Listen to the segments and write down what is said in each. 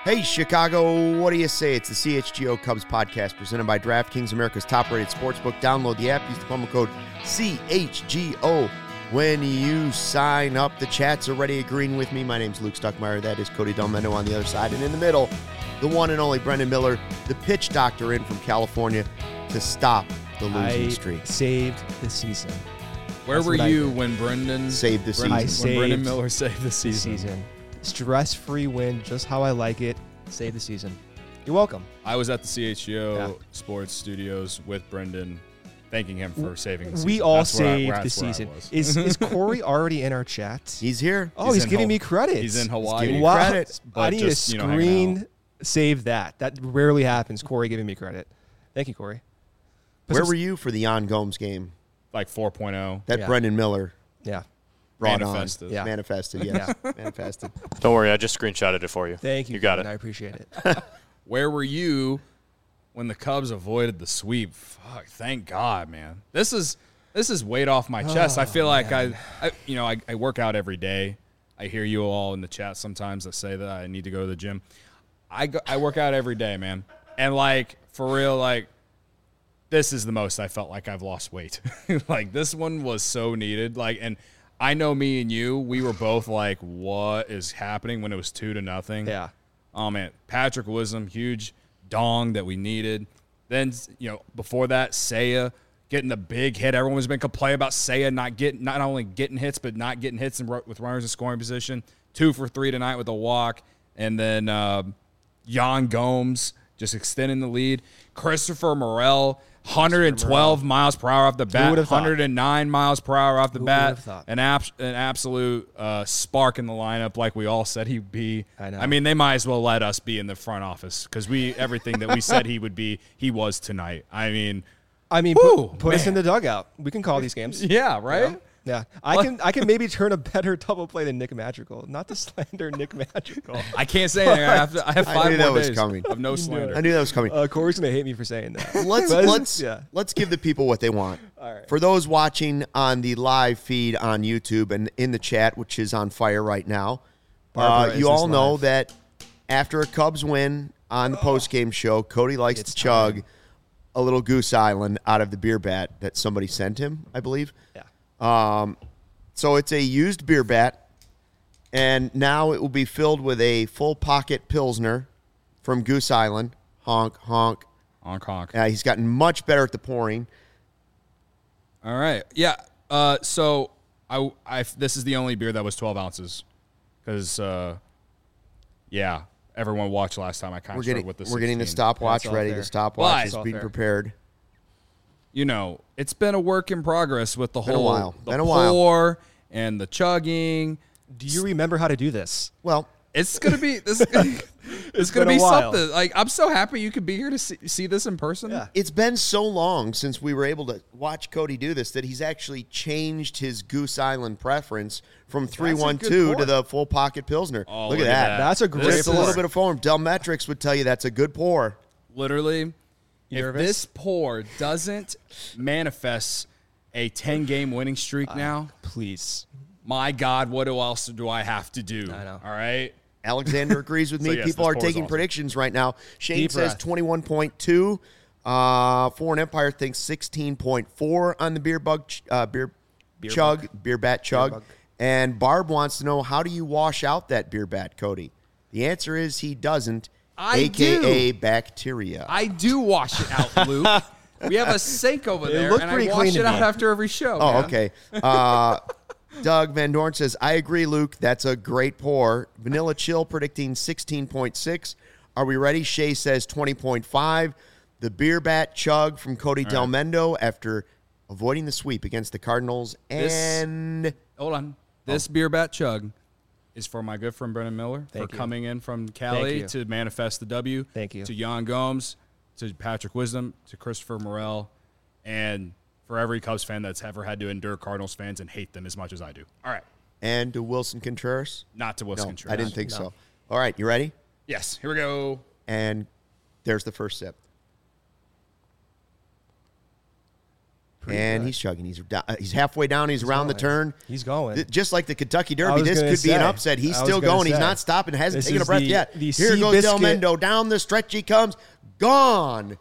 Hey, Chicago, what do you say? It's the CHGO Cubs podcast presented by DraftKings, America's top-rated sportsbook. Download the app. Use the promo code CHGO when you sign up. The chat's already agreeing with me. My name's Luke Stuckmeyer. That is Cody Delmendo on the other side. And in the middle, the one and only Brendan Miller, the pitch doctor in from California to stop the losing streak. Saved the season. Where were you when Brendan saved the season? When Brendan Miller saved the season. Stress-free win, just how I like it. Save the season. You're welcome. I was at the CHGO Sports Studios with Brendan, thanking him for saving the season. We all saved the season. Is Corey already in our chat? He's here. Oh, he's giving me credit. He's in Hawaii. Giving you credit. I need to screen save that. That rarely happens. Corey giving me credit. Thank you, Corey. Where were you for the Jan Gomes game? Like 4.0. That Brendan Miller brought manifested. on. Manifested, yes. Manifested. Don't worry, I just screenshotted it for you. Thank you. You got it. I appreciate it. Where were you when the Cubs avoided the sweep? Fuck, thank God, man. This is weight off my chest. I feel like I work out every day. I hear you all in the chat sometimes that say that I need to go to the gym. I work out every day, man. And like for real, like this is the most I felt like I've lost weight. Like this one was so needed. Like, and I know me and you, we were both like, what is happening when it was 2-0? Yeah. Oh, man. Patrick Wisdom, huge dong that we needed. Then, before that, Seiya getting the big hit. Everyone's been complaining about Seiya not only getting hits, but not getting hits with runners in scoring position. 2 for 3 tonight with a walk. And then Jan Gomes just extending the lead. Christopher Morel, 112 miles per hour off the bat, 109 miles per hour off the bat. An absolute spark in the lineup like we all said he'd be. I know. I mean, they might as well let us be in the front office because everything that we said he would be, he was tonight. I mean, put us in the dugout. We can call these games. Yeah, right? Yeah. Yeah, I can maybe turn a better double play than Nick Madrigal. Not to slander Nick Madrigal. I can't say anything. I have 5 more days of no I slander. knew that was coming. Corey's gonna hate me for saying that. Let's give the people what they want. All right. For those watching on the live feed on YouTube and in the chat, which is on fire right now, you all know that after a Cubs win on the postgame show, Cody likes to chug a little Goose Island out of the beer bat that somebody sent him, I believe. Yeah. So it's a used beer bat, and now it will be filled with a full pocket Pilsner from Goose Island. Honk, honk. Honk, honk. He's gotten much better at the pouring. All right. Yeah. So this is the only beer that was 12 ounces because, everyone watched last time. I kind of struggled with the 16. We're getting the stopwatch ready. Fair. The stopwatch is all being fair. prepared. It's been a work in progress with the Been a whole while. the Been a while. pour and the chugging. Do you remember how to do this? Well, It's gonna be this. It's gonna been be a while. something. Like I'm so happy you could be here to see this in person. Yeah. it's been so long since we were able to watch Cody do this that he's actually changed his Goose Island preference from 312 to the full pocket Pilsner. Oh, look at that. That's a great Just a pour. little bit of foam. Delmetrics would tell you that's a good pour. Literally, if nervous? this pour doesn't manifest a 10-game winning streak now, Please. my God, what else do I have to do? I know. All right. Alexander agrees with me. So, yes, People this are pour is taking awesome. predictions right now. Shane Deep says breath. 21.2. Foreign Empire thinks 16.4 on the beer bat chug. bug. And Barb wants to know, how do you wash out that beer bat, Cody? The answer is he doesn't, a.k.a. bacteria. I do wash it out, Luke. We have a sink over there, looked and I pretty wash clean it to out me. after every show. Oh, man. okay. Doug Van Dorn says, I agree, Luke. That's a great pour. Vanilla Chill predicting 16.6. Are we ready? Shay says 20.5. The beer bat chug from Cody Delmendo after avoiding the sweep against the Cardinals. And Hold on. This beer bat chug is for my good friend Brendan Miller Thank for you. coming in from Thank Cali you. to manifest the W. Thank you. To Jan Gomes, to Patrick Wisdom, to Christopher Morel, and for every Cubs fan that's ever had to endure Cardinals fans and hate them as much as I do. All right. and to Wilson Contreras. Not to Wilson No, Contreras. I didn't think so. All right, you ready? Yes. Here we go. And there's the first sip. And good. he's chugging. He's halfway down. He's around the turn. He's going. Just like the Kentucky I Derby, was this gonna could be an say. upset. He's I was still gonna going. He's say. not stopping. Hasn't This taken a is breath the- yet. the Here goes Del Seabiscuit. Mendo. Down the stretch he comes. Gone.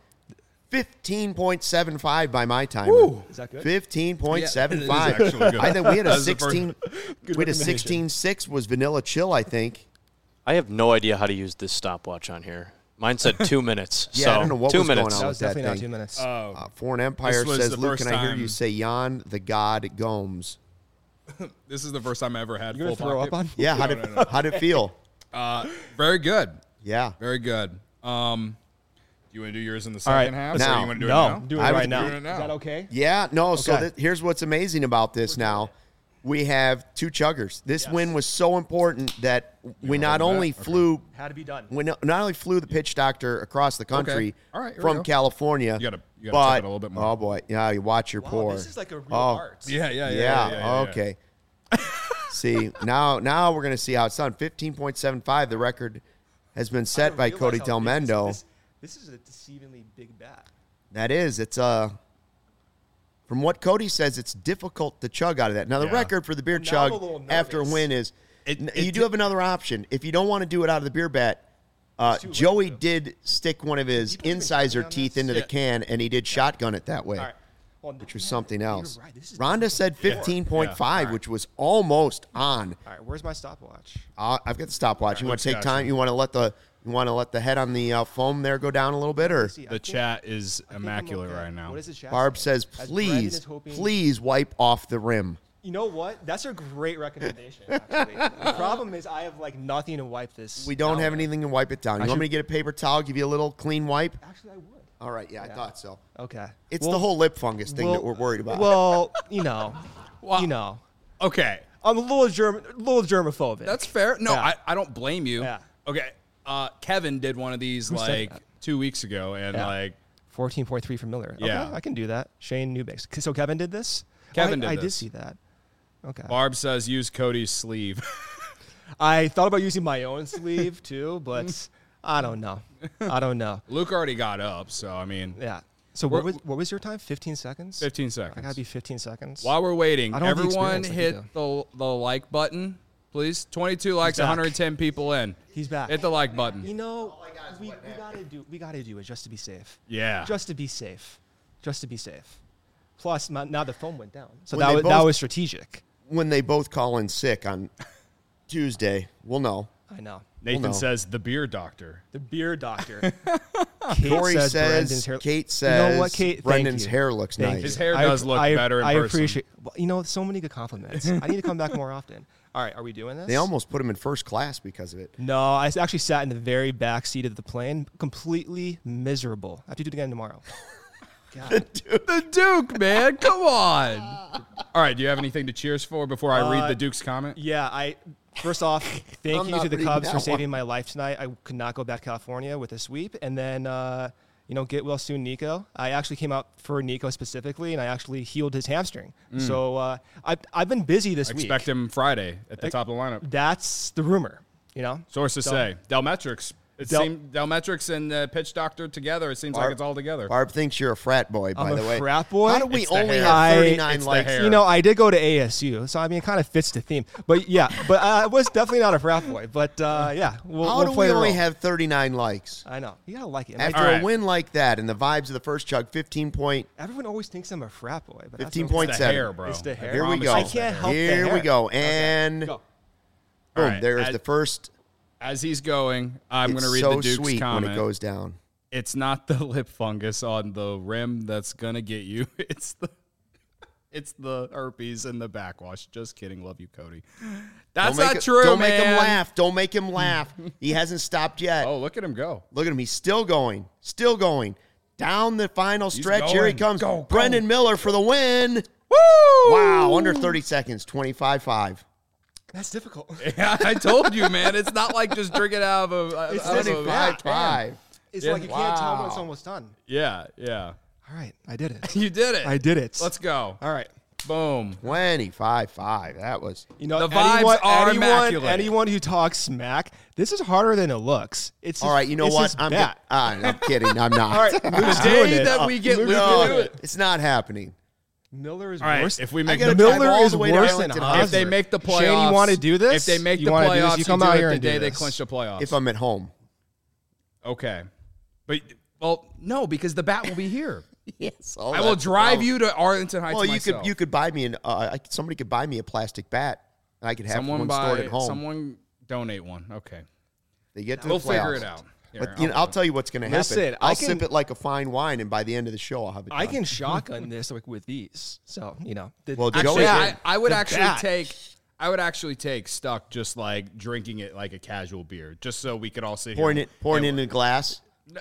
15.75 by my timer. Is that good? 15.75. Yeah, it is actually good. I think we had a That is the first- 16. We had a 16.6 was Vanilla Chill, I think. I have no idea how to use this stopwatch on here. Mine said 2 minutes. Yeah, so I don't know what 2 was going minutes. on. That with was definitely not thing. 2 minutes. Foreign Empire This was says, the Luke, first can I hear time- you say Jan the God Gomes? This is the first time I ever had You gonna full throw pocket. up on? Yeah, how'd it feel? Very good. Yeah. Very good. Do you want to do yours in the All right. second half? Now. Or you want to do No, it now? do it I was right now. doing it now. Is that okay? Yeah, no. So Okay. here's what's amazing about this now. We have two chuggers. This win was so important that we not holding only that? Okay. flew Had to be done. we not only flew the pitch doctor across the country All right, here we from go. California. You gotta but, chug it a little bit more. Oh boy, yeah, you watch your Wow, pour. this is like a real Oh. art. Yeah. Okay. See, now we're gonna see how it's done. 15.75. The record has been set by Cody Del Mendo. This is a deceivingly big bat. That is, it's from what Cody says, it's difficult to chug out of that. Now the Yeah. record for the beer Well, now I'm a chug little after a nervous. win is you do have another option. If you don't want to do it out of the beer bat, too late, Joey though. did stick one of his People even incisor checking on teeth this? into the can, and he did shotgun it that way, All right. Well, which was something else. You're right. This is Rhonda said 15.5, Yeah. which was almost on. All right, where's my stopwatch? I've got the stopwatch. You want Luke's to take got time? You want to let the head on the foam there go down a little bit, or See, I The think- chat is I think I'm immaculate okay. right now. What is the chat Barb saying? says, As Brandon please, is hoping- please wipe off the rim. You know what? That's a great recommendation. Actually, the problem is I have like nothing to wipe this. We don't down have with. anything to wipe it down. You I want me should- to get a paper towel, give you a little clean wipe? Actually, I would. All right, yeah, I Yeah. thought so. Okay. It's Well- the whole lip fungus thing well- that we're worried about. Well, Well, you know, Okay. I'm a little germophobic. That's fair. No, Yeah. I don't blame you. Yeah. Okay. Kevin did one of these Who said like that? 2 weeks ago, and Yeah. like 14.3 from Miller. Okay, Yeah. I can do that. Shane Newbix. So Kevin did this? Kevin did I did this. see that. Okay. Barb says, use Cody's sleeve. I thought about using my own sleeve too, but I don't know. Luke already got up, so I mean, Yeah. So what was your time? 15 seconds? 15 I seconds. gotta be 15 seconds. While we're waiting, I don't have the everyone experience like hit the like button, please. 22 likes, back. 110 people in. He's back. Hit the like button. You know, we gotta do it just to be safe. Yeah. Just to be safe. Just to be safe. Plus, now the phone went down, so When that they was, both- was strategic. when they both call in sick on Tuesday, we'll know. I know. Nathan no. says, the beer doctor. The beer doctor. Kate Corey Brendan's says, hair- Kate You says, know what, Kate? Thank Brendan's you. hair looks Thank nice. you. His hair does look better in I person. appreciate. Well, so many good compliments. I need to come back more often. All right, are we doing this? They almost put him in first class because of it. No, I actually sat in the very back seat of the plane, completely miserable. I have to do it again tomorrow. God. The Duke, man. Come on. All right. Do you have anything to cheers for before I read the Duke's comment? Yeah, first off, thank I'm you not to the reading Cubs that for one. saving my life tonight. I could not go back to California with a sweep. And then, get well soon, Nico. I actually came out for Nico specifically, and I actually healed his hamstring. So I've been busy this week. Expect him Friday at the top of the lineup. That's the rumor, Sources So- say. Delmetrics. Delmetrics and Pitch Doctor together, it seems like it's all together. Barb thinks you're a frat boy, by I'm the a way. frat boy? How do we It's the only hair. have 39 It's the likes? hair. I did go to ASU, so I mean, it kind of fits the theme. But yeah, I was definitely not a frat boy. But yeah, we'll How do play we the only role. have 39 likes? I know. You gotta like it. After All right. a win like that and the vibes of the first chug, 15.7. Everyone always thinks I'm a frat boy, but that's 15.7. It's the hair, bro. It's the hair. Here we promise go. it's the I can't hair. help the Here we hair. go. Okay. And Go. boom, All right. there's the first. As he's going, I'm going It's to read so the Duke's sweet comment. when it goes down. It's not the lip fungus on the rim that's going to get you. It's the herpes and the backwash. Just kidding. Love you, Cody. That's Don't make not it- true, Don't man. make him laugh. Don't make him laugh. He hasn't stopped yet. Oh, look at him go. Look at him. He's still going. Still going. Down the final stretch. Here he going. comes. Go, go. Brendan Miller for the win. Woo! Wow. Under 30 seconds. 25.5. That's difficult. Yeah, I told you, man. It's not like just drinking out of a. It's out of a- 25.5. It's Yeah. like you can't tell when Wow. it's almost done. Yeah. All right, I did it. You did it. I did it. Let's go. All right. Boom. 25.5. That was. You know, The vibes are immaculate. anyone who talks smack, this is harder than it looks. It's All right. You know it's what? just I'm bat. I'm kidding. I'm not. All right, Luke's The day doing it. that we get Luke No, to do it. it's not happening. Miller is All right, worse. if we I make gotta the drive Miller all is the way to worse than Arlington Hosmer. if they make the playoffs, Shane, you want to do this? If they make You the wanna do this? playoffs, You come do out it here the and do day they this. clinch the playoffs. If I'm at home. Okay, but well, no, because the bat will be here. Yes. I will drive you to Arlington Heights. Well, myself. you could buy me somebody could buy me a plastic bat, and I could have one stored at home. Someone donate one. Okay, They get to we'll the playoffs. figure it out. Here, But I'll tell you what's going to happen. Listen, I'll I can- sip it like a fine wine, and by the end of the show, I'll have it. I done. can shotgun this with these. So Well, Actually, Joey- I would the actually bat. take. I would actually take Stuck just like drinking it like a casual beer, just so we could all sit pouring here. it in a glass.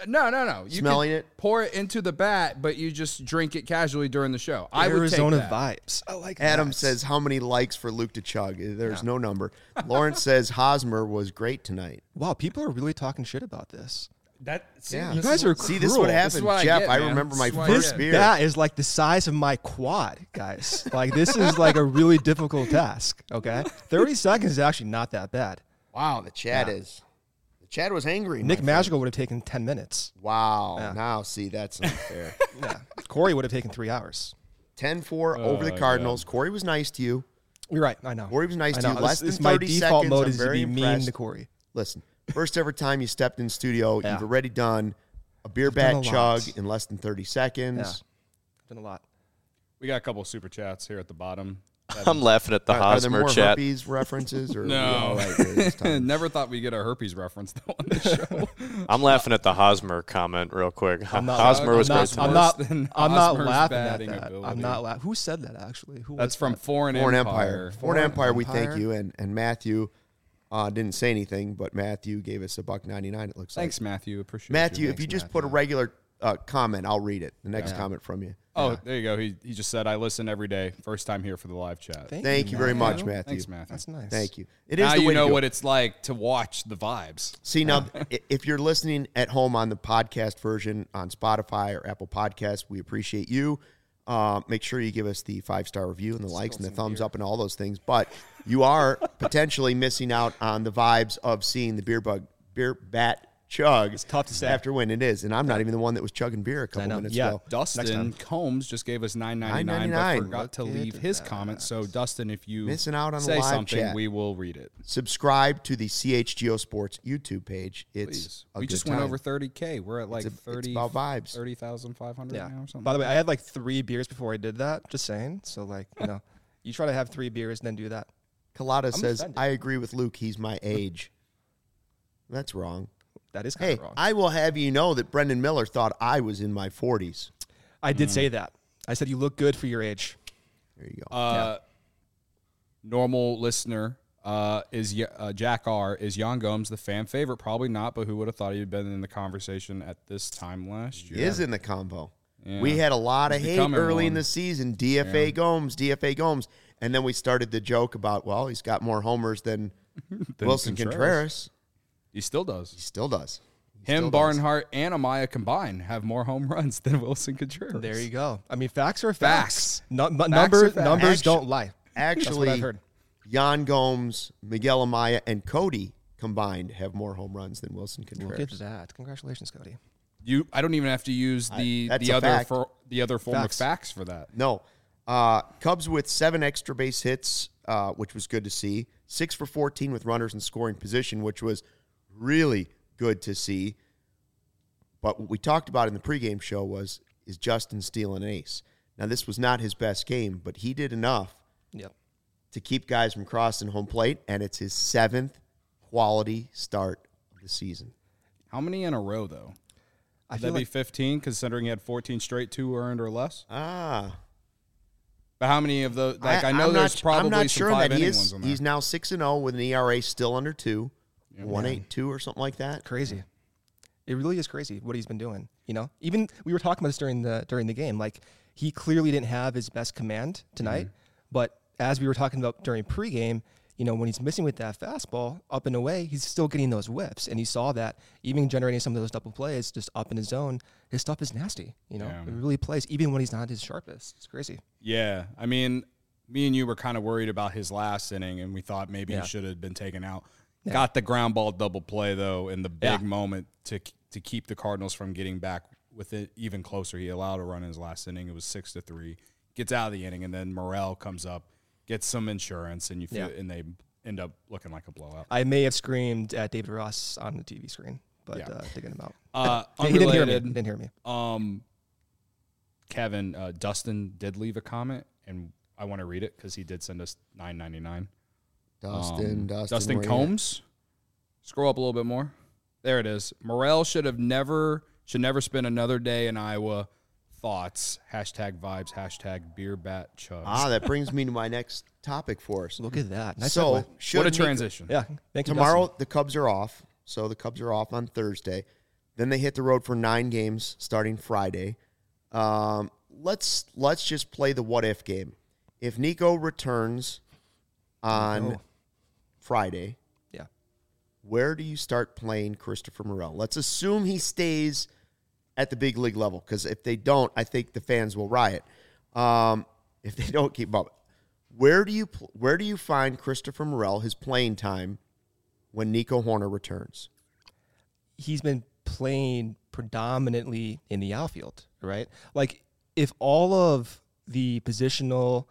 No. You Smelling could it? Pour it into the bat, but you just drink it casually during the show. I would Arizona take that. vibes. I like Adam that. says, "How many likes for Luke to chug?" There's no number. Lawrence says Hosmer was great tonight. Wow, people are really talking shit about this. Yeah, You guys are see, this is cruel. what This happens, is what I Jeff. get, I man. remember my This is what I first get. beer. That is like the size of my quad, guys. Like this is like a really difficult task. Okay, 30 seconds is actually not that bad. Wow, the chat is. The chat was angry. Nick my friend. Magical would have taken 10 minutes. Wow. Yeah. Now, see, that's unfair. Yeah, Corey would have taken 3 hours. 10-4 over the Cardinals. Corey was nice to you. You're right. I know. Corey was nice I to you. know. Less This- than my 30 default seconds. mode I'm is to very be mean impressed. to Corey. Listen, first ever time you stepped in studio, Yeah. you've already done a beer I've done bat a chug lot. in less than 30 Yeah, seconds. done a lot. We got a couple of super chats here at the bottom. I'm laughing at the Are there Hosmer more chat. herpes references? Or are we No. all right here this time? Never thought we'd get a herpes reference though on the show. I'm laughing at the Hosmer comment real quick. I'm not- Hosmer was I'm great not- tonight. Worse than I'm not Hosmer's laughing at batting that. ability. I'm not laughing. Who said that actually? Who That's was from that? Foreign Foreign Empire. Empire. Foreign Foreign Empire, we thank Empire. you. And Matthew didn't say anything, but Matthew gave us $1.99, it looks Thanks, like. Matthew. Appreciate Matthew, you. if you just Matthew. put a regular comment, I'll read it. The next comment from you. Oh, there you go. He just said, I listen every day. First time here for the live chat. Thank you very much, Matthew. Thanks, Matthew. That's nice. Thank you. It is Now the way you to know do what it. it's like to watch the vibes. See, now, if you're listening at home on the podcast version on Spotify or Apple Podcasts, we appreciate you. Make sure you give us the 5-star review and the likes and the thumbs up and all those things. But you are potentially missing out on the vibes of seeing the beer bat chug. It's tough to say. After when it is. And I'm not even the one that was chugging beer a couple know. minutes Yeah. ago. Dustin Combs just gave us $9.99, but $9.99. forgot to Look leave at his that. comment. So, Dustin, if you Missing out on the say live something, chat. we will read it. Subscribe to the CHGO Sports YouTube page. It's Please. a We good just time. went over 30K. We're at like It's 30, about vibes. 30,500 Yeah. now or something. By the way, I had like 3 beers before I did that. Just saying. So like, you try to have 3 beers and then do that. Kalata says, offended. I agree with Luke. He's my age. That's wrong. That is kind Hey, of wrong. I will have you know that Brendan Miller thought I was in my 40s. I did say that. I said you look good for your age. There you go. Normal listener is Jack R. Is Jan Gomes the fan favorite? Probably not, but who would have thought he'd been in the conversation at this time last year? He is in the combo. Yeah. We had a lot of He's hate becoming early in one. the season. DFA Gomes. And then we started the joke about, well, he's got more homers than Wilson Contreras. He still does. He still does. Him, Barnhart, and Amaya combined have more home runs than Wilson Contreras. There you go. I mean, facts are Facts. facts. No, are numbers facts. don't lie. That's what I've Actually, heard. Jan Gomes, Miguel Amaya, and Cody combined have more home runs than Wilson Contreras. Look at that. Congratulations, Cody. I don't even have to use the that's the a other fact. the other form Facts. of facts for that. No. Cubs with 7 extra base hits, which was good to see. 6 for 14 with runners in scoring position, which was really good to see. But what we talked about in the pregame show is Justin stealing an ace. Now, this was not his best game, but he did enough Yep. to keep guys from crossing home plate, and it's his 7th quality start of the season. How many in a row though? I Would feel that be like 15, considering he had 14 straight 2 earned or less? Ah. But how many of those? Like I know I'm there's not, probably I'm not some sure 5 that he inning is. ones in there. He's now 6-0 with an ERA still under 2, 1.82 or something like that. crazy. It really is crazy what he's been doing. Even we were talking about this during the game. Like he clearly didn't have his best command tonight, but as we were talking about during pregame, when he's missing with that fastball up and away, he's still getting those whiffs, and he saw that even generating some of those double plays just up in his zone. His stuff is nasty. It really plays even when he's not his sharpest. It's crazy. Yeah, I mean, me and you were kind of worried about his last inning, and we thought maybe Yeah. he should have been taken out. Yeah. Got the ground ball double play though in the big Yeah. moment to keep the Cardinals from getting back with it even closer. He allowed a run in his last inning. It was 6-3. gets out of the inning, and then Morel comes up, gets some insurance, and and they end up looking like a blowout. I may have screamed at David Ross on the TV screen, but digging him out. Unrelated, he didn't hear me. Kevin, Dustin did leave a comment, and I want to read it because he did send us $9.99. Dustin Combs. Scroll up a little bit more. There it is. Morel should never spend another day in Iowa. Thoughts. #vibes. #beerbatchubs. That brings me to my next topic for us. Look at that. Nice So, what a transition. Yeah. Thank you, tomorrow, Dustin. the Cubs are off. So the Cubs are off on Thursday. Then they hit the road for 9 games starting Friday. Let's just play the what-if game. If Nico returns on Friday, where do you start playing Christopher Morel? Let's assume he stays at the big league level, because if they don't, I think the fans will riot. If they don't keep up, where do you find Christopher Morel, his playing time, when Nico Hoerner returns? He's been playing predominantly in the outfield, right? Like, if all of the positional,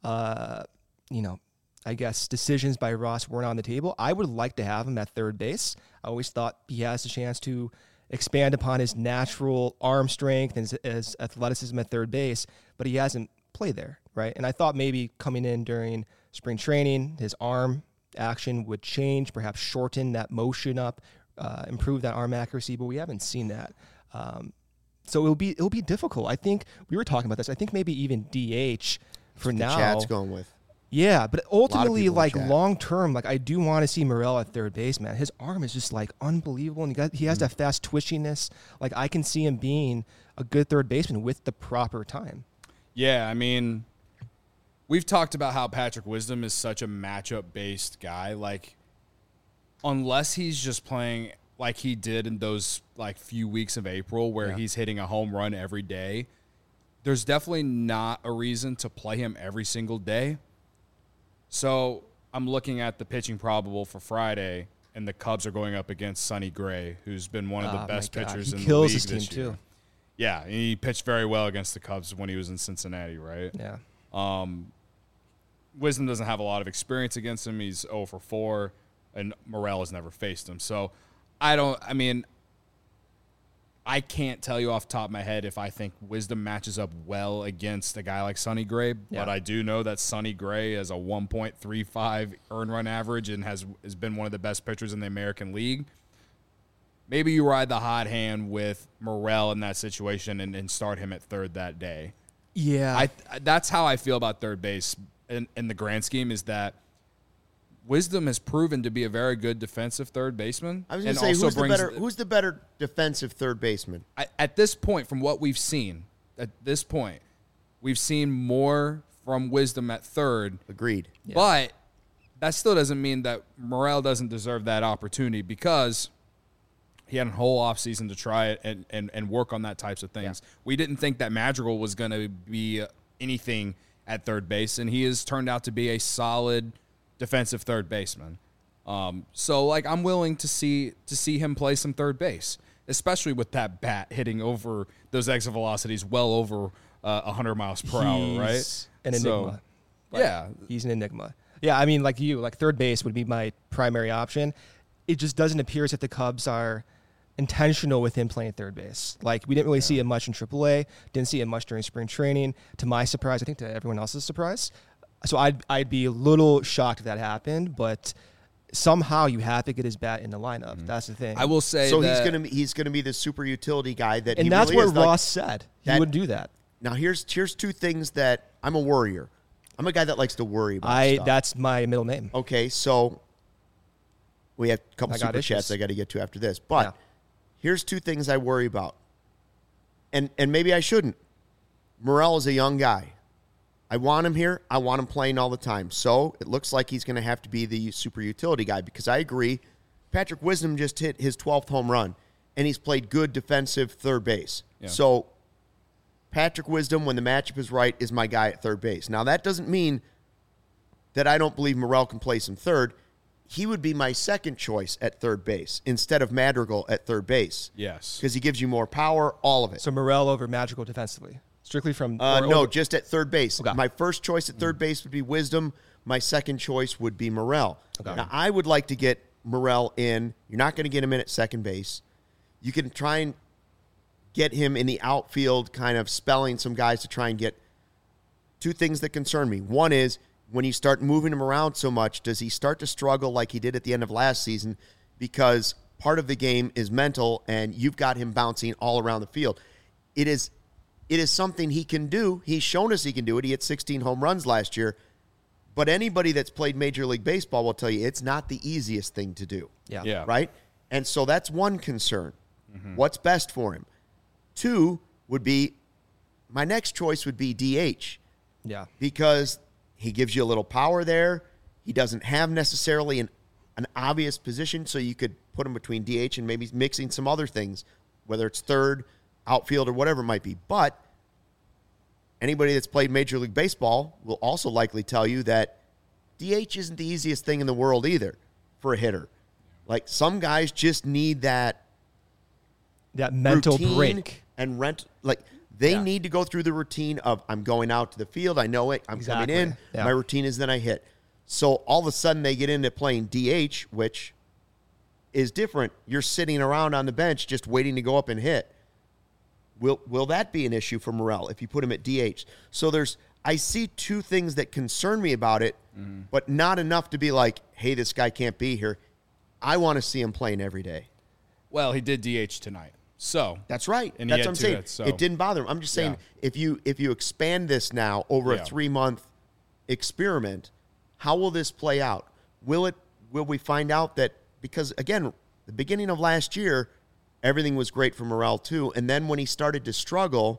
I guess, decisions by Ross weren't on the table, I would like to have him at third base. I always thought he has a chance to expand upon his natural arm strength and his athleticism at third base, but he hasn't played there, right? And I thought maybe coming in during spring training, his arm action would change, perhaps shorten that motion up, improve that arm accuracy, but we haven't seen that. So it'll be difficult. I think we were talking about this. I think maybe even DH for now. Chad's going with. Yeah, but ultimately, like, chat. long term, like, I do want to see Morel at third base, man. His arm is just, like, unbelievable, and he has that fast twitchiness. Like, I can see him being a good third baseman with the proper time. Yeah, I mean, we've talked about how Patrick Wisdom is such a matchup-based guy. Like, unless he's just playing like he did in those, like, few weeks of April where he's hitting a home run every day, there's definitely not a reason to play him every single day. So I'm looking at the pitching probable for Friday, and the Cubs are going up against Sonny Gray, who's been one of the best pitchers in the league his this team year. too. Yeah, he pitched very well against the Cubs when he was in Cincinnati, right? Yeah. Wisdom doesn't have a lot of experience against him. He's 0 for 4, and Morel has never faced him. So I can't tell you off the top of my head if I think Wisdom matches up well against a guy like Sonny Gray, but I do know that Sonny Gray has a 1.35 earned run average and has been one of the best pitchers in the American League. Maybe you ride the hot hand with Morel in that situation and start him at third that day. Yeah. That's how I feel about third base in the grand scheme, is that Wisdom has proven to be a very good defensive third baseman. I was going to say, who's the better defensive third baseman? At this point, from what we've seen, we've seen more from Wisdom at third. Agreed. Yeah. But that still doesn't mean that Morel doesn't deserve that opportunity, because he had a whole offseason to try it and work on that types of things. Yeah. We didn't think that Madrigal was going to be anything at third base, and he has turned out to be a solid defensive third baseman. So, like, I'm willing to see him play some third base, especially with that bat hitting over those exit velocities well over 100 miles per hour, right? An enigma. He's an enigma. Yeah, I mean, like third base would be my primary option. It just doesn't appear as if the Cubs are intentional with him playing third base. Like, we didn't really see it much in AAA, didn't see it much during spring training. To my surprise, I think to everyone else's surprise. So I'd be a little shocked if that happened, but somehow you have to get his bat in the lineup. Mm-hmm. That's the thing. I will say he's gonna be the super utility guy that, and he that's really what Ross said. He would do that. Now here's two things that I'm a worrier. I'm a guy that likes to worry about stuff. That's my middle name. Okay, so we have a couple super chats I got to get to after this, but here's 2 things I worry about, and maybe I shouldn't. Morel is a young guy. I want him here. I want him playing all the time. So it looks like he's going to have to be the super utility guy, because I agree. Patrick Wisdom just hit his 12th home run, and he's played good defensive third base. Yeah. So Patrick Wisdom, when the matchup is right, is my guy at third base. Now, that doesn't mean that I don't believe Morel can play some third. He would be my second choice at third base instead of Madrigal at third base. Yes. Because he gives you more power, all of it. So Morel over Madrigal defensively. Strictly from No, just at third base. Okay. My first choice at third base would be Wisdom. My second choice would be Morel. Okay. Now, I would like to get Morel in. You're not going to get him in at second base. You can try and get him in the outfield, kind of spelling some guys to try and get two things that concern me. One is when you start moving him around so much, does he start to struggle like he did at the end of last season? Because part of the game is mental, and you've got him bouncing all around the field. It is something he can do. He's shown us he can do it. He hit 16 home runs last year. But anybody that's played Major League Baseball will tell you it's not the easiest thing to do. Yeah. Right? And so that's one concern. What's best for him? Two would be, my next choice would be DH. Yeah. Because he gives you a little power there. He doesn't have necessarily an obvious position, so you could put him between DH and maybe mixing some other things, whether it's third, outfield, or whatever it might be. But anybody that's played Major League Baseball will also likely tell you that DH isn't the easiest thing in the world either for a hitter. Like, some guys just need that mental routine break. And they need to go through the routine of, I'm going out to the field, I know it, I'm coming in, Yeah. my routine is then I hit. So all of a sudden they get into playing DH, which is different. You're sitting around on the bench just waiting to go up and hit. Will that be an issue for Morel if you put him at DH? So I see two things that concern me about it, but not enough to be like, hey, this guy can't be here. I want to see him playing every day. Well, he did DH tonight. So That's right. And That's he what I'm had saying. two hits, so- It didn't bother him. I'm just saying, if you expand this now over a 3-month experiment, how will this play out? Will we find out that, because again, the beginning of last year, everything was great for Morel too, and then when he started to struggle,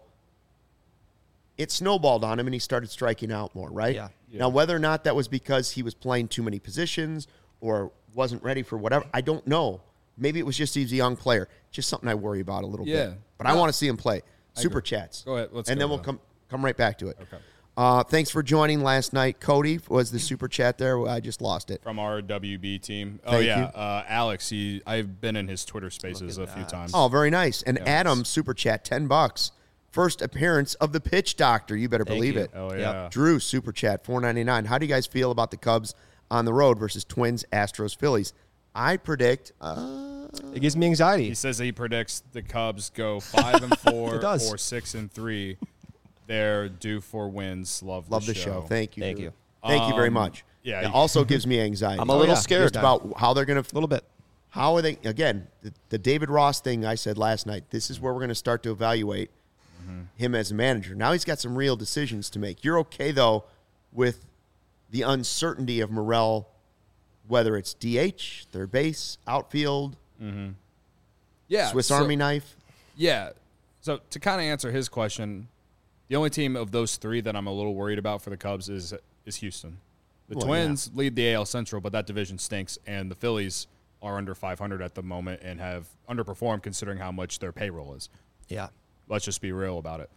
it snowballed on him and he started striking out more, right? Yeah. Now, whether or not that was because he was playing too many positions or wasn't ready for whatever, I don't know. Maybe it was just he's a young player. Just something I worry about a little bit. But I want to see him play. Super chats. Go ahead. Let's and go then we'll then. come right back to it. Okay. Thanks for joining last night. Cody was the super chat there. I just lost it. From our WB team. Thank you. Alex, I've been in his Twitter spaces a few times. Oh, very nice. And Adam, super chat, $10. First appearance of the Pitch Doctor. You better believe you. it. Oh, yeah. Drew, super chat, $4.99. How do you guys feel about the Cubs on the road versus Twins, Astros, Phillies? I predict. It gives me anxiety. He says he predicts the Cubs go 5-4 It does. or 6-3. They're due for wins. Love the show. Thank you. Thank Drew. you. Thank you very much. yeah. It also gives me anxiety. I'm a little scared. Just about how they're going to. A little bit. How are they? Again, the David Ross thing I said last night. This is where we're going to start to evaluate him as a manager. Now he's got some real decisions to make. You're okay though with the uncertainty of Morel, whether it's DH, third base, outfield, Yeah. Swiss so- Army knife. Yeah. So to kind of answer his question, the only team of those three that I'm a little worried about for the Cubs is Houston. The Well, Twins lead the AL Central, but that division stinks, and the Phillies are under 500 at the moment and have underperformed considering how much their payroll is. Yeah. Let's just be real about it.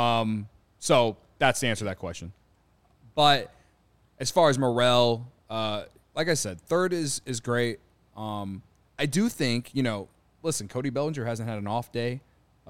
So that's the answer to that question. But as far as Morel, like I said, third is great. I do think, listen, Cody Bellinger hasn't had an off day.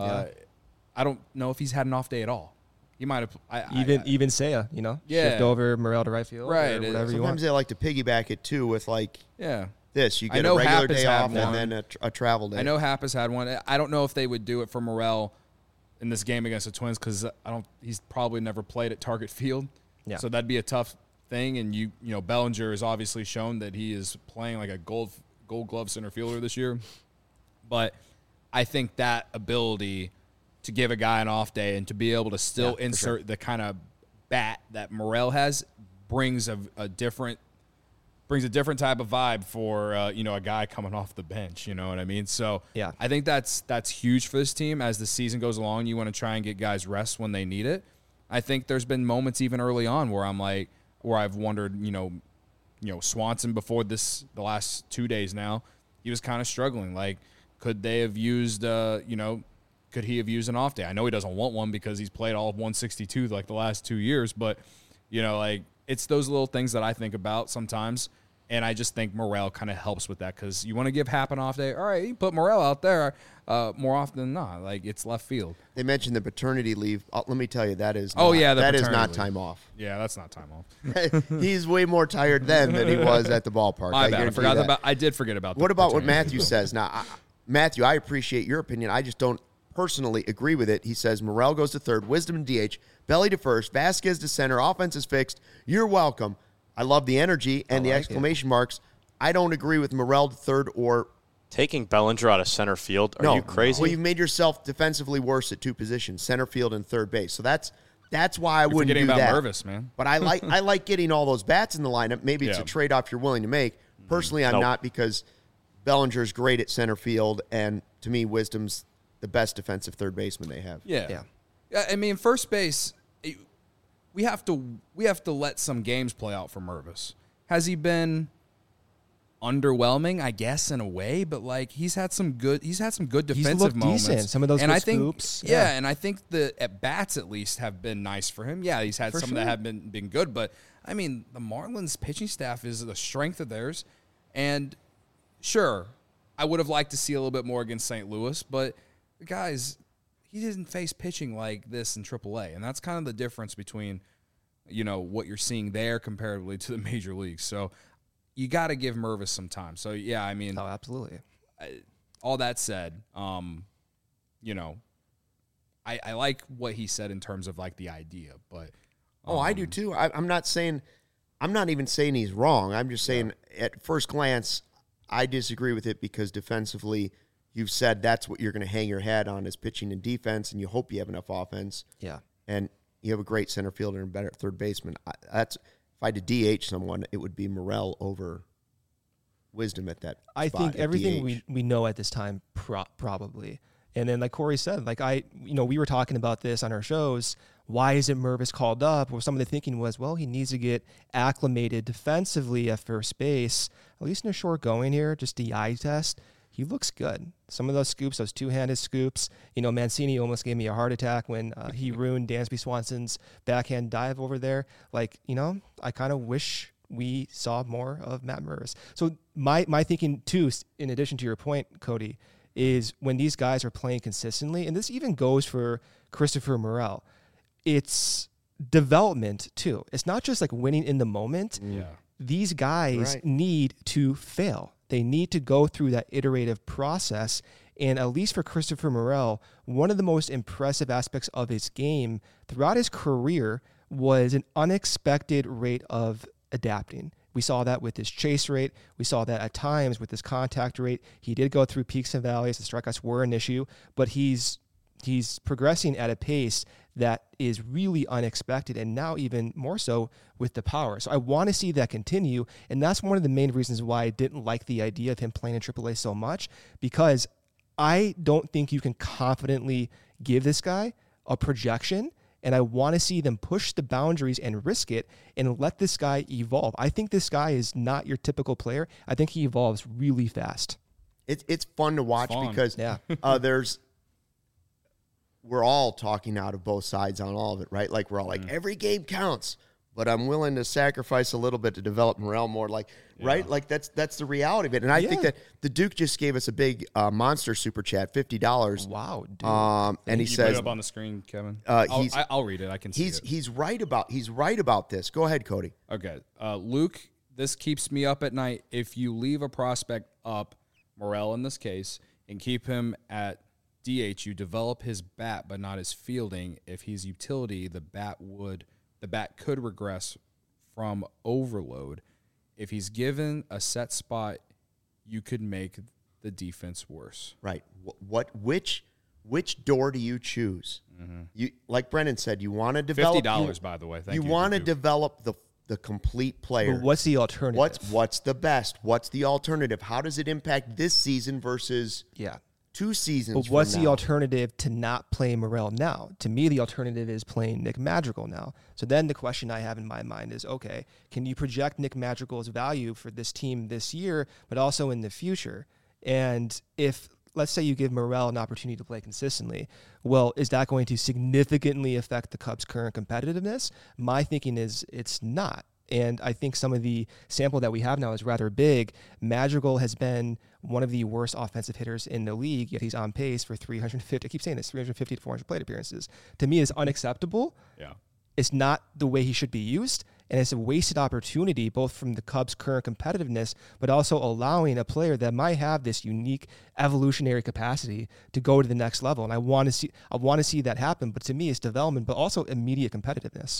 I don't know if he's had an off day at all. He might have. Even Seiya, Yeah. shift over Morel to right field, Right. or whatever you want. Sometimes they like to piggyback it too with like Yeah. this. You I get a know regular Happ has day had off one. and then a travel day. I know Happ has had one. I don't know if they would do it for Morel in this game against the Twins because he's probably never played at Target Field. Yeah. So that'd be a tough thing. And Bellinger has obviously shown that he is playing like a gold glove center fielder this year. But I think that ability to give a guy an off day and to be able to still insert the kind of bat that Morel has brings a different type of vibe for a guy coming off the bench. You know what I mean? So Yeah. I think that's huge for this team. As the season goes along, you want to try and get guys rest when they need it. I think there's been moments even early on where I've wondered, Swanson before the last 2 days now, he was kind of struggling. Like, could they have used, could he have used an off day? I know he doesn't want one because he's played all of 162 like the last 2 years, but, it's those little things that I think about sometimes. And I just think Morel kind of helps with that because you want to give Happ an off day. All right, you put Morel out there more often than not. Like, it's left field. They mentioned the paternity leave. Let me tell you, that is that is not leave. time off. Yeah, that's not time off. He's way more tired then than he was at the ballpark. My bad. I did forget about that. What about what Matthew says? Now, Matthew, I appreciate your opinion. I just don't personally agree with it. He says Morel goes to third, Wisdom to DH, Belly to first, Vasquez to center, offense is fixed. You're welcome. I love the energy and the exclamation marks. I don't agree with Morel to third or taking Bellinger out of center field. Are you crazy? Well, you've made yourself defensively worse at two positions, center field and third base. So that's why I wouldn't do that. About Mervis, man. But I like getting all those bats in the lineup. Maybe it's a trade-off you're willing to make. Personally, I'm not, because Bellinger's great at center field, and to me, Wisdom's the best defensive third baseman they have. Yeah. I mean, first base, we have to let some games play out for Mervis. Has he been underwhelming? I guess in a way, but like he's had some good defensive moments. Decent. Some of those scoops. And I think the at bats at least have been nice for him. Yeah, he's had some that have been good, but I mean, the Marlins pitching staff is the strength of theirs, and sure, I would have liked to see a little bit more against St. Louis, but guys, he didn't face pitching like this in AAA, and that's kind of the difference between, what you're seeing there comparatively to the major leagues. So you got to give Mervis some time. So, yeah, I mean. Oh, absolutely. All that said, I like what he said in terms of, like, the idea. But I do too. I'm not even saying he's wrong. I'm just saying at first glance, I disagree with it because defensively, you've said that's what you're going to hang your hat on is pitching and defense, and you hope you have enough offense. Yeah. And you have a great center fielder and better third baseman. If I had to DH someone, it would be Morel over Wisdom at that I spot think everything DH. we know at this time, probably. And then, like Corey said, we were talking about this on our shows. Why isn't Mervis called up? Well, some of the thinking was, well, he needs to get acclimated defensively at first base, at least in a short going here, just the eye test. He looks good. Some of those scoops, those two-handed scoops, Mancini almost gave me a heart attack when he ruined Dansby Swanson's backhand dive over there. I kind of wish we saw more of Matt Mervis. So my thinking, too, in addition to your point, Cody, is when these guys are playing consistently, and this even goes for Christopher Morel, it's development, too. It's not just like winning in the moment. Yeah. These guys need to fail. They need to go through that iterative process. And at least for Christopher Morel, one of the most impressive aspects of his game throughout his career was an unexpected rate of adapting. We saw that with his chase rate. We saw that at times with his contact rate. He did go through peaks and valleys. The strikeouts were an issue, but he's progressing at a pace that is really unexpected, and now even more so with the power. So I want to see that continue, and that's one of the main reasons why I didn't like the idea of him playing in AAA so much, because I don't think you can confidently give this guy a projection, and I want to see them push the boundaries and risk it and let this guy evolve. I think this guy is not your typical player. I think he evolves really fast. It's fun to watch because we're all talking out of both sides on all of it, right? Like, we're all like, every game counts, but I'm willing to sacrifice a little bit to develop Morel more, right? Like, that's the reality of it. And I think that the Duke just gave us a big monster super chat, $50. Wow, dude. And he you says, put it up on the screen, Kevin. I'll read it. I can see it. He's right about this. Go ahead, Cody. Okay. Luke, this keeps me up at night. If you leave a prospect up, Morel in this case, and keep him at DH, you develop his bat but not his fielding. If he's utility, the bat could regress from overload. If he's given a set spot, you could make the defense worse. Right. Which door do you choose? Mm-hmm. You, like Brennan said, you want to develop $50, by the way. Thank you. You want to develop the complete player. But what's the alternative? What's the best? What's the alternative? How does it impact this season versus 2 seasons? But what's from the now? alternative to not play Morel now? To me, the alternative is playing Nick Madrigal now. So then the question I have in my mind is, okay, can you project Nick Madrigal's value for this team this year, but also in the future? And if, let's say you give Morel an opportunity to play consistently, well, is that going to significantly affect the Cubs' current competitiveness? My thinking is it's not. And I think some of the sample that we have now is rather big. Madrigal has been one of the worst offensive hitters in the league, yet he's on pace for 350. I keep saying this, 350 to 400 plate appearances. To me, it's unacceptable. Yeah. It's not the way he should be used, and it's a wasted opportunity, both from the Cubs' current competitiveness, but also allowing a player that might have this unique evolutionary capacity to go to the next level. And I want to see that happen. But to me, it's development, but also immediate competitiveness.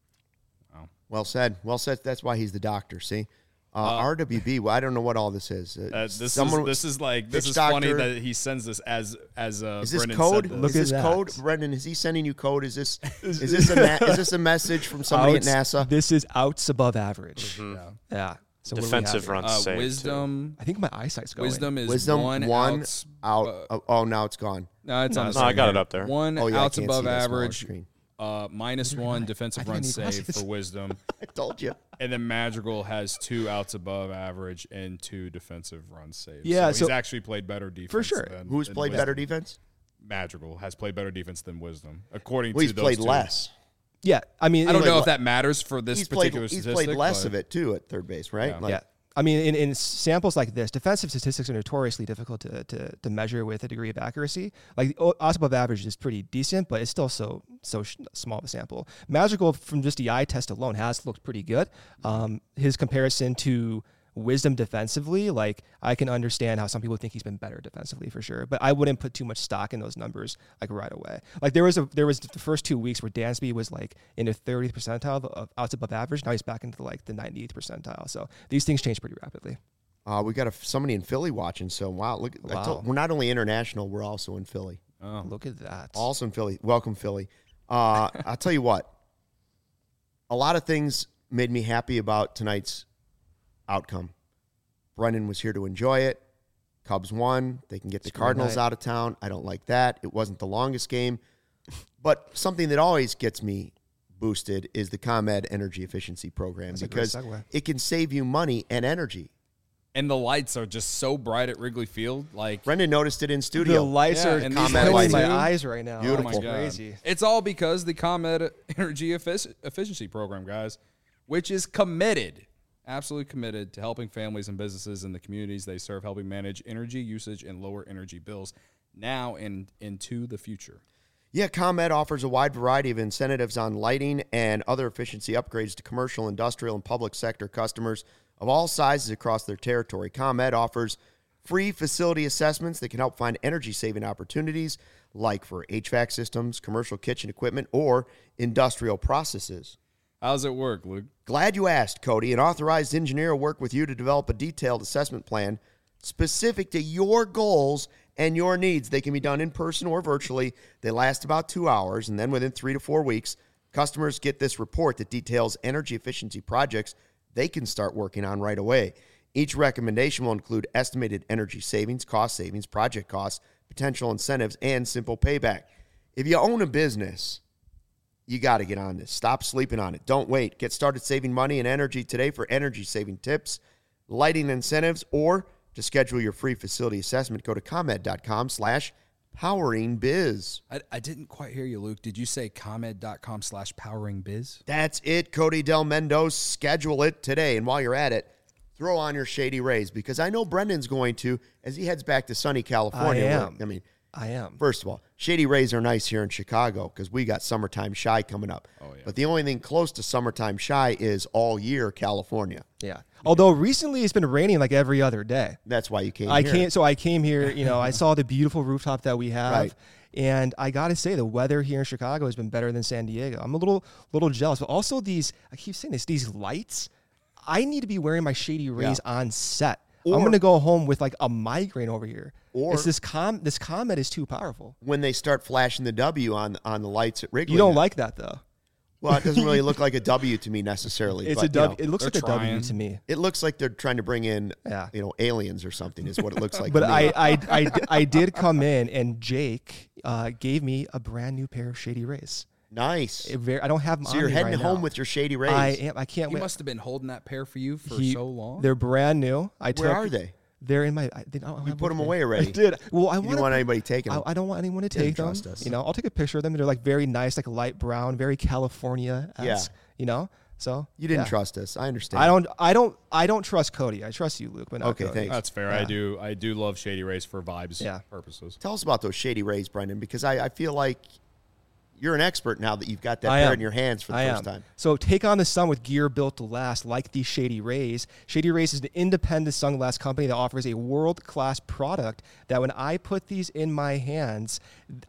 Well said. Well said. That's why he's the doctor. See, RWB. Well, I don't know what all this is. This is funny that he sends this as is this Brendan code? said Look Is this at code, that. Brendan? Is he sending you code? Is this is this a message from somebody at NASA? This is outs above average. Yeah. So what do we have Defensive here? runs saved. Wisdom. I think my eyesight's going. Wisdom one out. Oh, now it's gone. No, it's on. No, I got it up there. One Oh, yeah, I outs can't above see that smaller average. screen. -1 defensive I run think I need save glasses. for Wisdom. I told you. And then Madrigal has 2 outs above average and 2 defensive run saves. Yeah, so he's so- actually played better defense. For sure. Than, Who's than played Wisdom. better defense? Madrigal has played better defense than Wisdom, according Well, to he's those played two. less. Yeah. I mean, I don't played know le- if that matters for this He's played. particular He's statistic. played less but- of it too at third base, right? Yeah. yeah. I mean, in samples like this, defensive statistics are notoriously difficult to measure with a degree of accuracy. Like odds above average is pretty decent, but it's still so small of a sample. Madrigal, from just the eye test alone, has looked pretty good. His comparison to Wisdom defensively, like I can understand how some people think he's been better defensively for sure, but I wouldn't put too much stock in those numbers like right away. Like there was the first 2 weeks where Dansby was like in the 30th percentile of outs above average. Now he's back into like the 98th percentile. So these things change pretty rapidly. We got somebody in Philly watching. So wow, look! Wow. We're not only international, we're also in Philly. Oh. Look at that. Also in Philly. Welcome, Philly. I'll tell you what. A lot of things made me happy about tonight's outcome. Brendan was here to enjoy it. Cubs won. They can get the Cardinals out of town. I don't like that. It wasn't the longest game. But something that always gets me boosted is the ComEd Energy Efficiency Program. That's a great because segue. it can save you money and energy. And the lights are just so bright at Wrigley Field. Like Brendan noticed it in The studio. lights Yeah, are and these killing lights my too. eyes right now. Beautiful. It's Oh my God. crazy. It's all because the ComEd Energy Efficiency Program, guys, which is committed, absolutely committed to helping families and businesses in the communities they serve, helping manage energy usage and lower energy bills now and into the future. Yeah, ComEd offers a wide variety of incentives on lighting and other efficiency upgrades to commercial, industrial, and public sector customers of all sizes across their territory. ComEd offers free facility assessments that can help find energy-saving opportunities, like for HVAC systems, commercial kitchen equipment, or industrial processes. How's it work, Luke? Glad you asked, Cody. An authorized engineer will work with you to develop a detailed assessment plan specific to your goals and your needs. They can be done in person or virtually. They last about 2 hours, and then within 3 to 4 weeks, customers get this report that details energy efficiency projects they can start working on right away. Each recommendation will include estimated energy savings, cost savings, project costs, potential incentives, and simple payback. If you own a business, you got to get on this. Stop sleeping on it. Don't wait. Get started saving money and energy today for energy-saving tips, lighting incentives, or to schedule your free facility assessment, go to ComEd.com/poweringbiz. I didn't quite hear you, Luke. Did you say ComEd.com/poweringbiz? That's it, Cody Del Mendoza. Schedule it today. And while you're at it, throw on your Shady Rays, because I know Brendan's going to, as he heads back to sunny California. I am. First of all, Shady Rays are nice here in Chicago because we got Summertime Shy coming up. Oh, yeah. But the only thing close to Summertime Shy is all year California. Yeah. Although recently it's been raining like every other day. That's why you came I here. can't. So I came here. I saw the beautiful rooftop that we have, Right. and I got to say the weather here in Chicago has been better than San Diego. I'm a little jealous, but also these. I keep saying this. These lights. I need to be wearing my Shady Rays on set. I'm going to go home with like a migraine over here. Or- it's this ComEd is too powerful. When they start flashing the W on the lights at Wrigley. You don't like that though. Well, it doesn't really look like a W to me necessarily. It's but, a W. you know, It looks like they're a W trying. to me. it looks like they're trying to bring in, Yeah. aliens or something is what it looks like. But to me. I did come in, and Jake gave me a brand new pair of Shady Rays. Nice. I don't have them. So on you're me heading right home now. with your Shady Rays. I am. I can't He wait. must have been holding that pair for you for so long. They're brand new. Where are they? They're in my. You put them away already. I did. Well, You don't want anybody taking them. I don't want anyone to Didn't take them. trust us. I'll take a picture of them. They're like very nice, like light brown, very California-esque. Yeah. So You didn't yeah. trust us. I understand. I don't trust Cody. I trust you, Luke, but not Okay, Cody. thanks. That's fair. Yeah. I do love Shady Rays for vibes Yeah. purposes. Tell us about those Shady Rays, Brendan, because I feel like you're an expert now that you've got that I pair am. in your hands for the I first am. time. So take on the sun with gear built to last, like the Shady Rays. Shady Rays is an independent sunglass company that offers a world-class product that when I put these in my hands,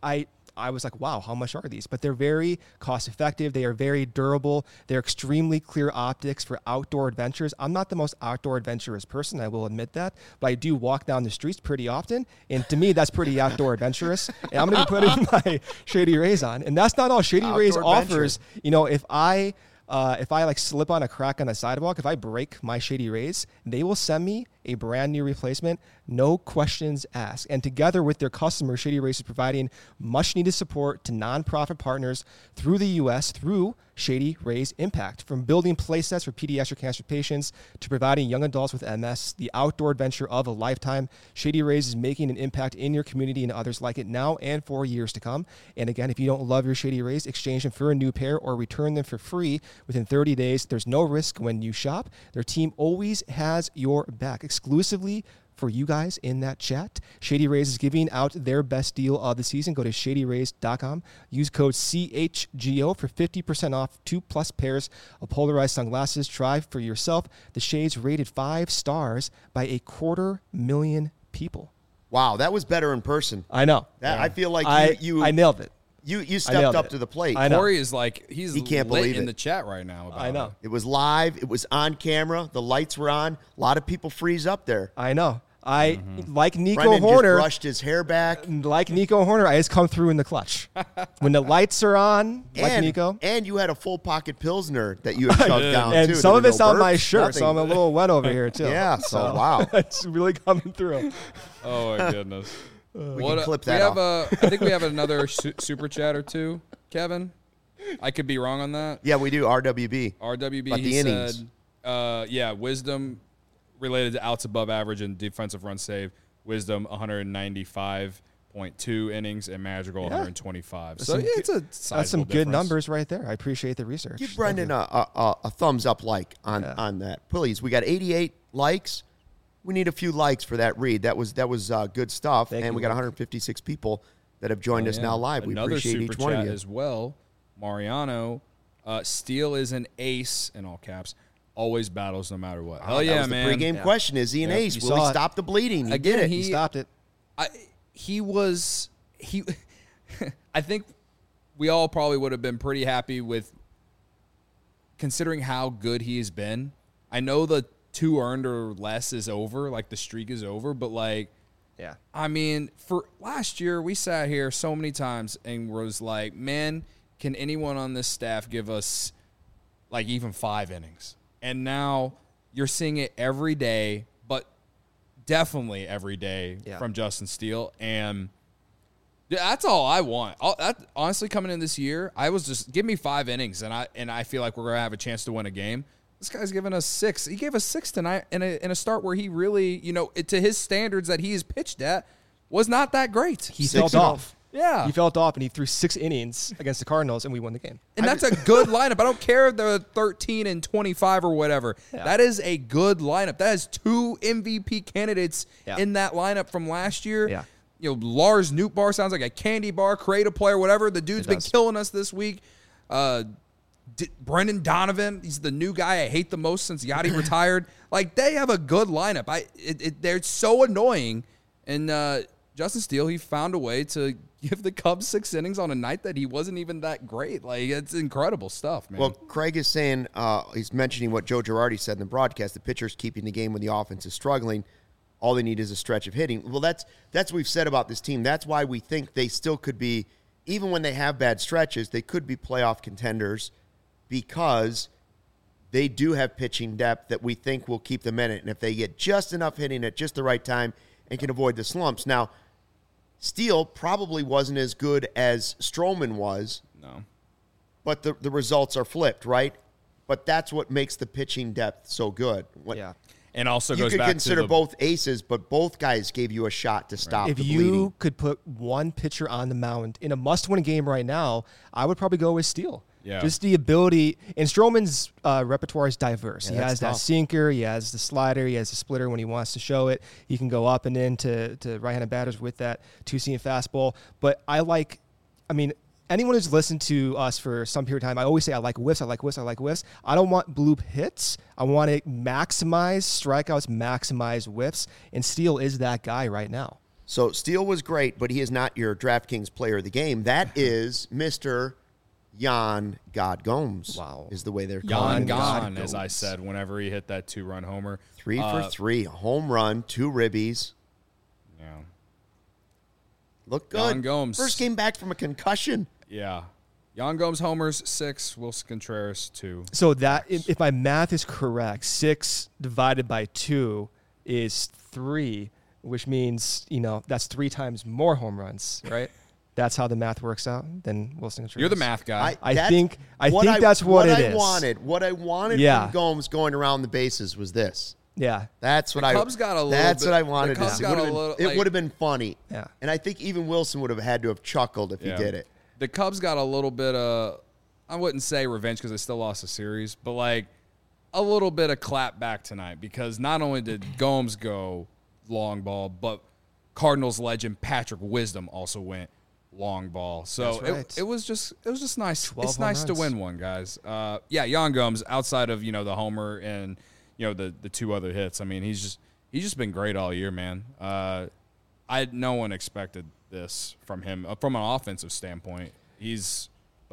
I was like, wow, how much are these? But they're very cost-effective. They are very durable. They're extremely clear optics for outdoor adventures. I'm not the most outdoor adventurous person, I will admit that, but I do walk down the streets pretty often, and to me, that's pretty outdoor adventurous. And I'm going to be putting my Shady Rays on, and that's not all. Shady Rays Outdoor adventure. offers, if I like slip on a crack on the sidewalk, if I break my Shady Rays, they will send me a brand new replacement, no questions asked. And together with their customers, Shady Rays is providing much needed support to nonprofit partners through the U.S. through Shady Rays Impact. From building play sets for pediatric cancer patients to providing young adults with MS, the outdoor adventure of a lifetime, Shady Rays is making an impact in your community and others like it now and for years to come. And again, if you don't love your Shady Rays, exchange them for a new pair or return them for free within 30 days. There's no risk when you shop. Their team always has your back. Exclusively for you guys in that chat, Shady Rays is giving out their best deal of the season. Go to shadyrays.com. Use code CHGO for 50% off 2+ pairs of polarized sunglasses. Try for yourself. The shades rated 5 stars by 250,000 people. Wow, that was better in person. I know. I feel like I nailed it. you stepped up to the plate. I know. Corey is like, he's He can't lit believe in it. the chat right now about I know. It was live. It was on camera. The lights were on. A lot of people freeze up there. I know. Like Nico Brendan Horner. just brushed his hair back. Like Nico Horner, I just come through in the clutch. When the lights are on, like and, Nico. And you had a full pocket Pilsner that you had shoved down, And too. some There of were it's no on my burps, shirt, so nothing. I'm a little wet over here, too. Yeah, so wow. It's really coming through. Oh my goodness. We can clip that we have off. I think we have another super chat or two, Kevin. I could be wrong on that. Yeah, we do. RWB. RWB, About he the innings. said, wisdom related to outs above average and defensive run save. Wisdom 195.2 innings and Madrigal 125. So yeah, it's a That's some sizable good difference. numbers right there. I appreciate the research. Give Brendan a thumbs up like on that. Please. We got 88 likes. We need a few likes for that read. That was good stuff. Thank and you, we got Luke. 156 people that have joined us Yeah. now live. We Another appreciate super each one of chat you. as well. Mariano, Steele is an ace in all caps. Always battles no matter what. Hell that yeah, was man. the pregame question. Is he an ace? You Will he saw it. stop the bleeding? He Again, did it. He stopped it. He I think we all probably would have been pretty happy with considering how good he has been. I know the 2 earned or less is over, like the streak is over, but like, Yeah. I mean, for last year, we sat here so many times and was like, man, can anyone on this staff give us like even 5 innings? And now you're seeing it every day, but definitely every day from Justin Steele. And that's all I want. Honestly, coming in this year, I was just give me 5 innings, and I feel like we're going to have a chance to win a game. This guy's giving us 6. He gave us 6 tonight in a start where he really, to his standards that he has pitched at, was not that great. He felt 6-0. off. Yeah. He felt off, and he threw 6 innings against the Cardinals, and we won the game. And that's a good lineup. I don't care the 13 and 25 or whatever. Yeah. That is a good lineup. That is 2 MVP candidates in that lineup from last year. Yeah. Lars Nootbaar sounds like a candy bar, creative player, whatever. The dude's It been does. killing us this week. Brendan Donovan, he's the new guy I hate the most since Yachty retired. Like, they have a good lineup. They're so annoying. And Justin Steele, he found a way to give the Cubs 6 innings on a night that he wasn't even that great. Like, it's incredible stuff, man. Well, Craig is saying, he's mentioning what Joe Girardi said in the broadcast. The pitcher's keeping the game when the offense is struggling. All they need is a stretch of hitting. Well, that's what we've said about this team. That's why we think they still could be, even when they have bad stretches, they could be playoff contenders because they do have pitching depth that we think will keep them in it. And if they get just enough hitting at just the right time and can avoid the slumps. Now, Steele probably wasn't as good as Stroman was. No. But the results are flipped, right? But that's what makes the pitching depth so good. Yeah. And also You goes could back consider to the, both aces, but both guys gave you a shot to stop If the you bleeding. could put one pitcher on the mound in a must-win game right now, I would probably go with Steele. Yeah. Just the ability, and Stroman's repertoire is diverse. Yeah, He that's has that tough. sinker, he has the slider, he has the splitter when he wants to show it. He can go up and in to right-handed batters with that two-seam fastball. But anyone who's listened to us for some period of time, I always say I like whiffs, I like whiffs, I like whiffs. I don't want bloop hits. I want to maximize strikeouts, maximize whiffs, and Steele is that guy right now. So Steele was great, but he is not your DraftKings player of the game. That is Mr. Yan God Gomes. Wow. Is the way they're calling Yan him. gone, God as I Gomes. said, whenever he hit that 2-run homer. 3 for 3, home run, 2 ribbies. Yeah. Look good. Yan Gomes. First game back from a concussion. Yeah. Yan Gomes homers 6, Wilson Contreras 2. So that, if my math is correct, 6 divided by 2 is 3, which means, that's 3 times more home runs, right? That's how the math works out. Then Wilson Contreras. You're the math guy. I that's think that's what it is. What I wanted Yeah. from Gomes going around the bases was this. Yeah. That's what Cubs got a little That's bit- what I wanted the to Cubs see. got a It little, would have been funny. Yeah. And I think even Wilson would have had to have chuckled if he did it. The Cubs got a little bit of, I wouldn't say revenge because they still lost the series, but like a little bit of clap back tonight because not only did Gomes go long ball, but Cardinals legend Patrick Wisdom also went long ball. So That's right. it was just nice. 12 It's home nice to runs. win one, guys. Yan Gomes outside of the homer and the 2 other hits. I mean, he's just been great all year, man. No one expected this from him from an offensive standpoint. He's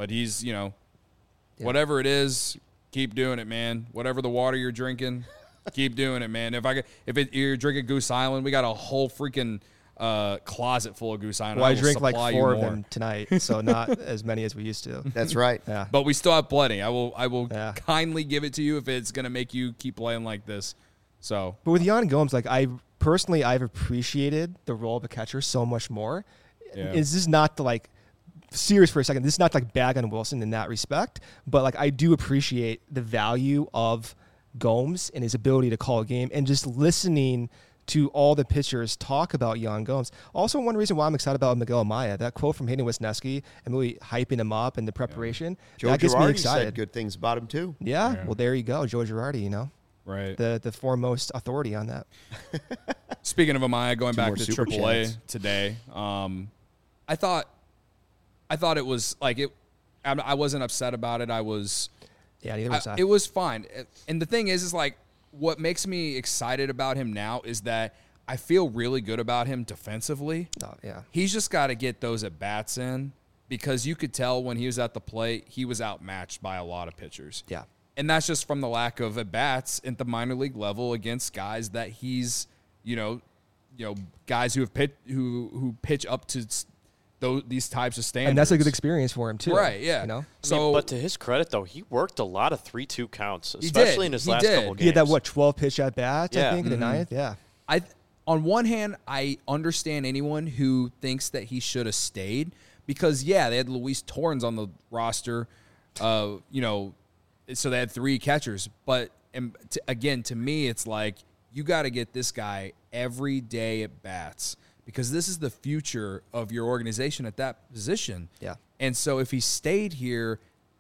whatever it is, keep doing it, man. Whatever the water you're drinking, keep doing it, man. If you're drinking Goose Island, we got a whole freaking closet full of Goose Island. Well, I will drink like supply you 4 of more. them tonight, so not as many as we used to. That's right. Yeah. But we still have plenty. I will Yeah. kindly give it to you if it's gonna make you keep playing like this. So But with Yan Gomes, I've appreciated the role of a catcher so much more. Yeah. This is not to serious for a second. This is not bag on Wilson in that respect, but I do appreciate the value of Gomes and his ability to call a game and just listening to all the pitchers talk about Yan Gomes. Also, one reason why I'm excited about Miguel Amaya, that quote from Hayden Wisniewski and really hyping him up and the preparation, Joe that gets me Girardi excited. said good things about him, too. Yeah, well, there you go. Joe Girardi, right. the foremost authority on that. Speaking of Amaya, going back more to super AAA chats. today, I thought it was I wasn't upset about it. Yeah, neither was I. It was fine. And the thing is what makes me excited about him now is that I feel really good about him defensively. Oh, yeah. He's just got to get those at bats in because you could tell when he was at the plate, he was outmatched by a lot of pitchers. Yeah. And that's just from the lack of at bats at the minor league level against guys that he's, guys who have who pitch up to these types of standards. And that's a good experience for him, too. Right, yeah. So, but to his credit, though, he worked a lot of 3-2 counts, He especially did. in his He last did. couple games. He had that, 12 pitch at bat, I Yeah. think, in the ninth? Yeah. on one hand, I understand anyone who thinks that he should have stayed because, they had Luis Torrens on the roster, so they had 3 catchers. But, again, to me, it's like you got to get this guy every day at bats because this is the future of your organization at that position. Yeah. And so if he stayed here,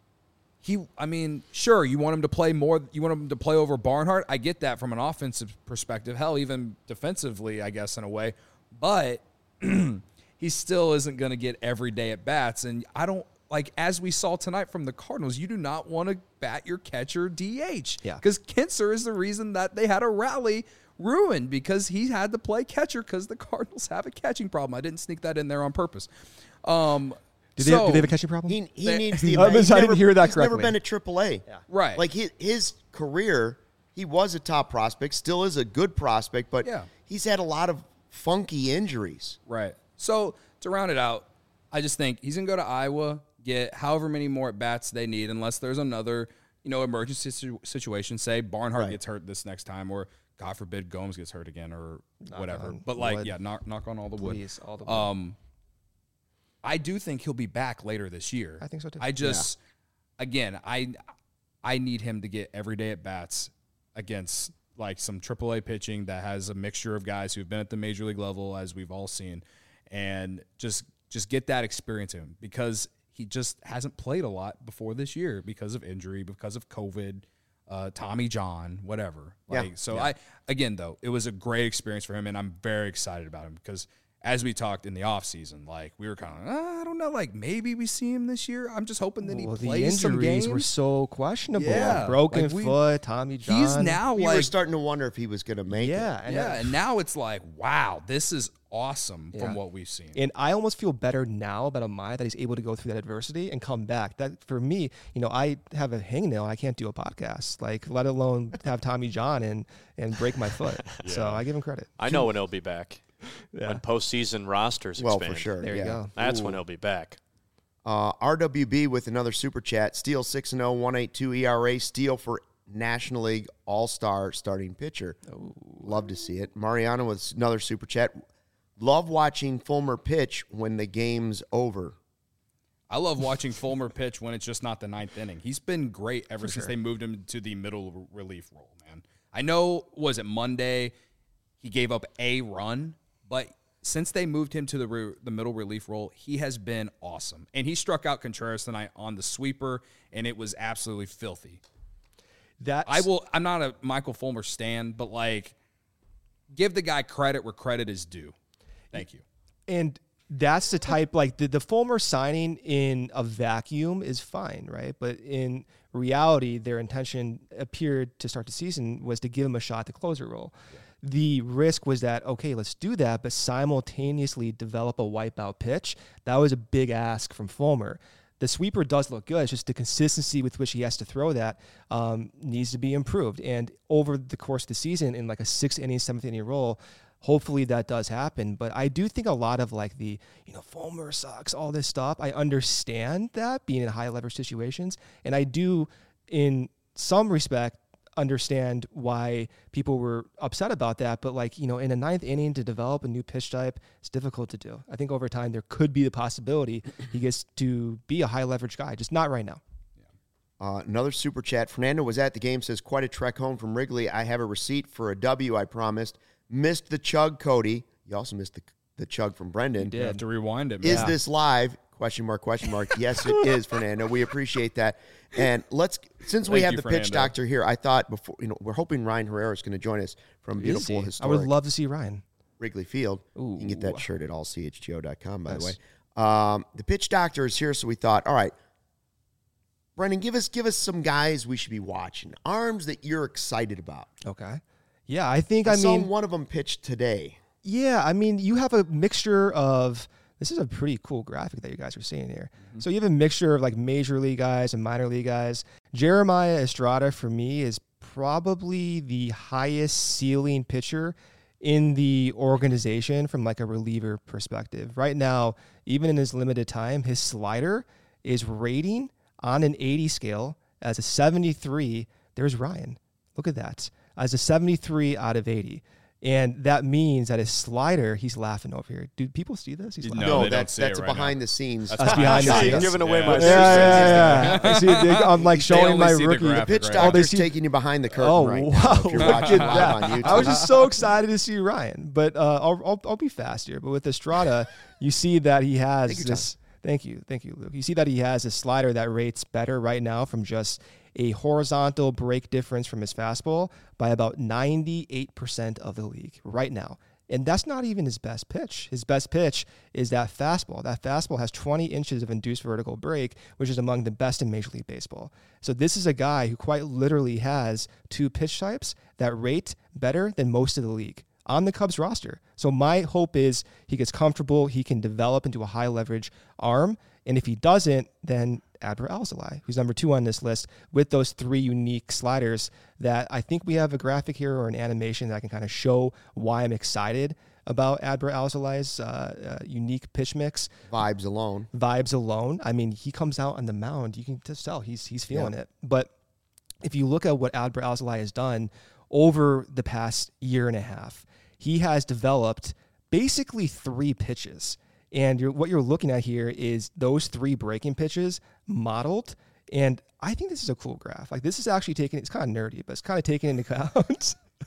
sure, you want him to play more. You want him to play over Barnhart. I get that from an offensive perspective. Hell, even defensively, I guess, in a way. But he still isn't going to get every day at bats. And I don't, as we saw tonight from the Cardinals, you do not want to bat your catcher DH. Yeah. Because Kinser is the reason that they had a rally ruined because he had to play catcher because the Cardinals have a catching problem. I didn't sneak that in there on purpose. Do they have a catching problem? He needs the. I didn't hear that He's never correctly. been at AAA. Yeah. Right. Like his career, he was a top prospect, still is a good prospect, but Yeah. he's had a lot of funky injuries. Right. So to round it out, I just think he's going to go to Iowa, get however many more at bats they need, unless there's another, emergency situation. Say Barnhart Right. gets hurt this next time, or God forbid Gomes gets hurt again, or whatever. on But wood. knock on all the wood. Please, all the wood. I do think he'll be back later this year. I think so, too. I just, again, I need him to get every day at bats against some AAA pitching that has a mixture of guys who've been at the major league level, as we've all seen, and just get that experience in him because he just hasn't played a lot before this year because of injury, because of COVID, Tommy John, whatever. Again, though, it was a great experience for him, and I'm very excited about him because as we talked in the offseason, like, we were kind of, I don't know, like, maybe we see him this year. I'm just hoping that he plays some games. The injuries were so questionable. Yeah. Broken foot, Tommy John. He's now, We were starting to wonder if he was going to make it. And now it's like, wow, this is awesome from what we've seen. And I almost feel better now about Amaya that he's able to go through that adversity and come back. That, for me, I have a hangnail. I can't do a podcast, like, let alone have Tommy John and break my foot. So I give him credit. I know when he'll be back. When postseason rosters expand. Well, for sure. There you go. That's when he'll be back. RWB with another super chat. Steele 6-0, 1.82 ERA. Steele for National League All-Star starting pitcher. Love to see it. Mariano with another super chat. Love watching Fulmer pitch when the game's over. I love watching Fulmer pitch when it's just not the ninth inning. He's been great ever since they moved him to the middle relief role, man. I know, was it Monday, he gave up a run, but since they moved him to the middle relief role, he has been awesome. And he struck out Contreras tonight on the sweeper, and it was absolutely filthy. I'm not a Michael Fulmer stan, but, like, give the guy credit where credit is due. Thank you. And that's the type, like, the Fulmer signing in a vacuum is fine, right? But in reality, their intention appeared to start the season was to give him a shot at the closer role. Yeah. The risk was that, okay, let's do that, but simultaneously develop a wipeout pitch. That was a big ask from Fulmer. The sweeper does look good. It's just the consistency with which he has to throw that needs to be improved. And over the course of the season, in like a 6-inning, 7th-inning role, hopefully that does happen. But I do think a lot of, like, the, Fulmer sucks, all this stuff, I understand that, being in high leverage situations. And I do, in some respect, understand why people were upset about that. But, like, in a 9th inning to develop a new pitch type, it's difficult to do. I think over time there could be the possibility he gets to be a high leverage guy, just not right now. Another super chat. Fernando was at the game, says, quite a trek home from Wrigley. I have a receipt for a W, I promised. Missed the chug, Cody. You also missed the chug from Brendan. You have to rewind it, man. Is this live? Question mark. Yes, it is, Fernando. We appreciate that. And since we have the pitch doctor here, I thought before, we're hoping Ryan Herrera is going to join us from beautiful historic. I would love to see Ryan. Wrigley Field. Ooh. You can get that shirt at allchgo.com, by the way. The pitch doctor is here, so we thought, all right, Brendan, give us some guys we should be watching. Arms that you're excited about. Okay. Yeah, I think, I saw one of them pitch today. Yeah, I mean, you have a mixture of, this is a pretty cool graphic that you guys are seeing here. Mm-hmm. So you have a mixture of, like, major league guys and minor league guys. Jeremiah Estrada, for me, is probably the highest ceiling pitcher in the organization from, like, a reliever perspective. Right now, even in his limited time, his slider is rating on an 80 scale as a 73. There's Ryan. Look at that. As a 73 out of 80. And that means that his slider, he's laughing over here. Do people see this? He's laughing. No, that's a behind the scenes. That's behind the scenes. You're giving away my Yeah. See, I'm like showing my rookie. The pitch doctor's taking you behind the curtain right now. If you're watching live on YouTube. I was just so excited to see Ryan. But I'll be fast here. But with Estrada, you see that he has this. Thank you, Luke. You see that he has a slider that rates better right now from just a horizontal break difference from his fastball by about 98% of the league right now. And that's not even his best pitch. His best pitch is that fastball. That fastball has 20 inches of induced vertical break, which is among the best in Major League Baseball. So this is a guy who quite literally has two pitch types that rate better than most of the league on the Cubs roster. So my hope is he gets comfortable, he can develop into a high leverage arm, and if he doesn't, then Adbert Alzolay, who's number 2 on this list, with those 3 unique sliders that I think we have a graphic here or an animation that can kind of show why I'm excited about Adbert Alzolay's unique pitch mix. Vibes alone. I mean, he comes out on the mound, you can just tell he's feeling it. But if you look at what Adbert Alzolay has done over the past year and a half, he has developed basically 3 pitches. And what you're looking at here is those 3 breaking pitches modeled. And I think this is a cool graph. Like, this is actually it's kind of nerdy, but it's kind of taken into account.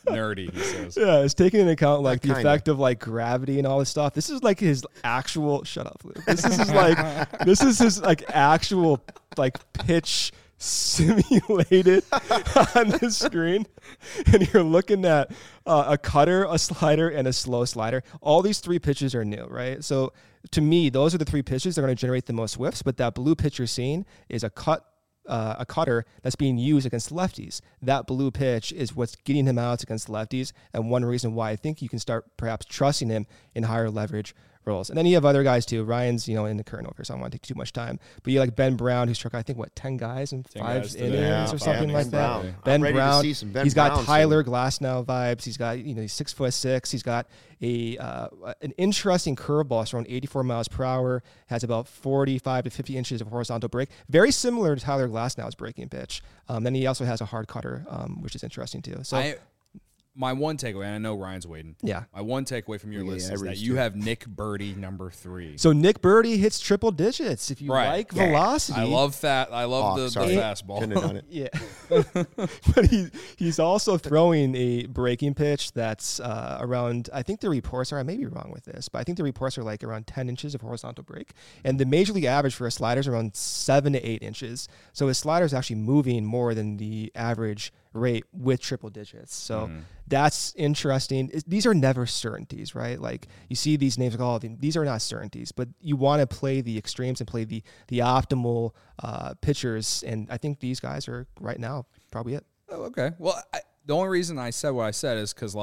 nerdy, he says. Yeah, it's taking into account like the kinda. effect of like gravity and all this stuff. This is like his actual. Shut up, Luke. This is his like actual like pitch simulated on the screen, and you're looking at a cutter, a slider, and a slow slider. All these three pitches are new, right? So to me, those are the three pitches that are going to generate the most whiffs. But that blue pitch you're seeing is a cutter that's being used against lefties. That blue pitch is what's getting him out against lefties, and one reason why I think you can start perhaps trusting him in higher leverage roles. And then you have other guys too. Ryan's, in the current over, so I don't want to take too much time. But you like Ben Brown, who struck, I think, 10 guys in 5 innings or something like that. Brown. Ben I'm ready to Brown. see some Ben He's got Brown Tyler Glasnow vibes. He's got, he's 6'6". He's got an interesting curveball, it's around 84 miles per hour, has about 45 to 50 inches of horizontal break. Very similar to Tyler Glasnow's breaking pitch. Then he also has a hard cutter, which is interesting too. So my one takeaway, and I know Ryan's waiting. Yeah. My one takeaway from your list is that Reese you too. have Nick Birdie number 3. So Nick Birdie hits triple digits. If you Right. like velocity. I love that. I love the fastball. Couldn't have done it. Yeah. But he's also throwing a breaking pitch that's around, I think the reports are, I may be wrong with this, but I think the reports are like around 10 inches of horizontal break. And the major league average for a slider is around 7 to 8 inches. So his slider is actually moving more than the average rate with triple digits. So that's interesting. These are never certainties, right? Like you see these names, like, these are not certainties, but you want to play the extremes and play the optimal pitchers. And I think these guys are right now probably it. Oh, okay. Well, the only reason I said what I said is because,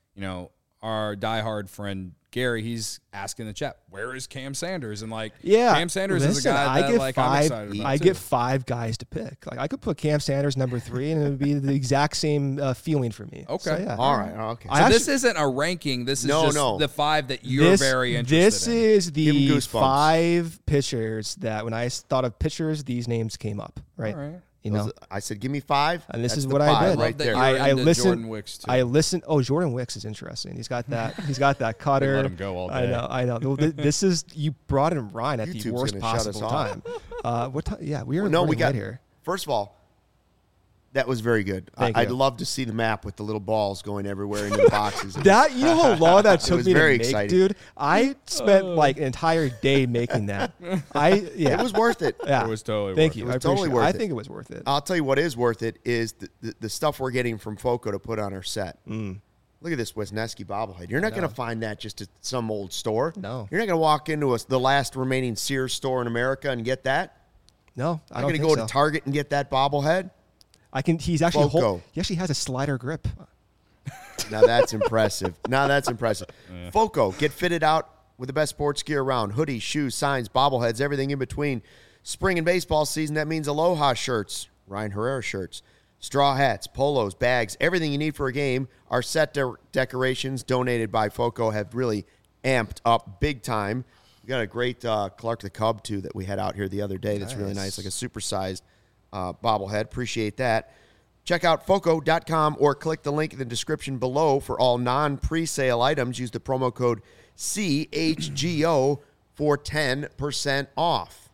our diehard friend Gary, he's asking the chat, where is Cam Sanders? And Cam Sanders is a guy that I'm excited about. I get 5 guys to pick. Like I could put Cam Sanders number 3, and it would be the exact same feeling for me. Okay. So, yeah. All right. Okay. So this isn't a ranking. This is just the 5 that you're very interested This in. is Give 'em the goosebumps. 5 pitchers that when I thought of pitchers, these names came up. Right. All right. I said, give me 5. And this That's is the what I 5 did. right there. I listened. Jordan Wicks too. I listened. Oh, Jordan Wicks is interesting. He's got that. He's got that cutter. Let him go all day. I know. Well, this is you brought in Ryan at the YouTube's worst gonna shut us possible off. time. What time? Yeah, we are. No, we running got late here. First of all, that was very good. Thank I'd you. love to see the map with the little balls going everywhere into the boxes. That you know how long that took was me to very make, exciting. dude. I spent like an entire day making that. It was worth it. Yeah. It was totally Thank worth you. it. It was I appreciate totally it. worth I it. think it was worth it. I'll tell you what is worth it is the stuff we're getting from Foco to put on our set. Look at this Wisniewski bobblehead. You're not going to find that just at some old store. No. You're not going to walk into the last remaining Sears store in America and get that. No, I I'm don't going to think go so. to Target and get that bobblehead. I can. He's actually Foco. he actually has a slider grip. Now that's impressive. Foco, get fitted out with the best sports gear around. Hoodies, shoes, signs, bobbleheads, everything in between. Spring and baseball season, that means Aloha shirts, Ryan Herrera shirts, straw hats, polos, bags, everything you need for a game. Our set decorations donated by Foco have really amped up big time. We got a great Clark the Cub, too, that we had out here the other day. That's really nice, like a supersized bobblehead. Appreciate that. Check out Foco.com or click the link in the description below for all non-presale items. Use the promo code CHGO for 10% off.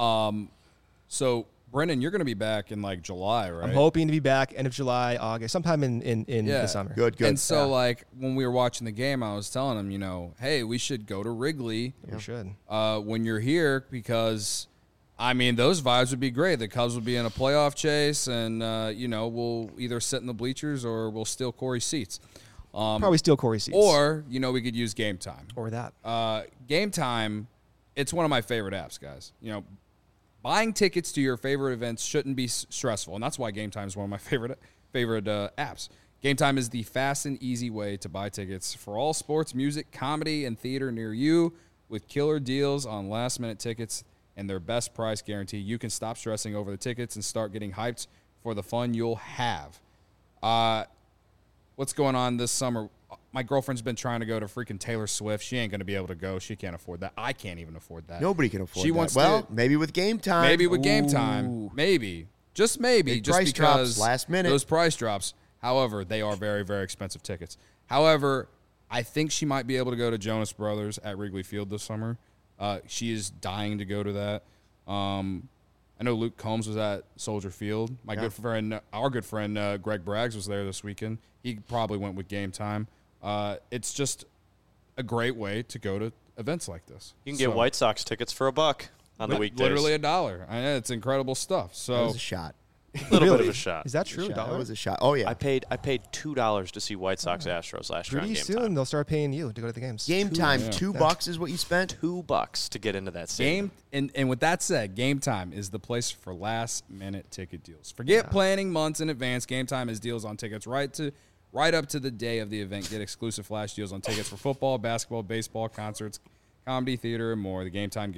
So, Brendan, you're going to be back in July, right? I'm hoping to be back end of July, August, sometime in the summer. Good. And so, when we were watching the game, I was telling him, hey, we should go to Wrigley We should. when you're here because, those vibes would be great. The Cubs would be in a playoff chase, and, we'll either sit in the bleachers or we'll steal Corey's seats. Probably steal Corey's seats. Or, we could use Game Time. Or that. Game Time, it's one of my favorite apps, guys. Buying tickets to your favorite events shouldn't be stressful, and that's why Game Time is one of my favorite apps. Game Time is the fast and easy way to buy tickets for all sports, music, comedy, and theater near you with killer deals on last-minute tickets and their best price guarantee. You can stop stressing over the tickets and start getting hyped for the fun you'll have. What's going on this summer? My girlfriend's been trying to go to freaking Taylor Swift. She ain't going to be able to go. She can't afford that. I can't even afford that. Nobody can afford She that. wants well, to- maybe with Game Time. Maybe with Game Time. Maybe. Just maybe. Big Just price drops, because last minute. those price drops. However, they are very, very expensive tickets. However, I think she might be able to go to Jonas Brothers at Wrigley Field this summer. She is dying to go to that. I know Luke Combs was at Soldier Field. Our good friend Greg Braggs was there this weekend. He probably went with Game Time. It's just a great way to go to events like this. You can get White Sox tickets for $1 on the weekdays. Literally $1. It's incredible stuff. So That was a shot. A little bit of a shot. Is that true? That was a shot. Oh, yeah. I paid $2 to see White Sox Astros last year on Pretty Game soon Time. they'll start paying you to go to the games. Game Time, $2 is what you spent? $2 to get into that stadium. And with that said, Game Time is the place for last-minute ticket deals. Forget planning months in advance. Game Time has deals on tickets right up to the day of the event. Get exclusive flash deals on tickets for football, basketball, baseball, concerts, comedy, theater, and more. The Game Time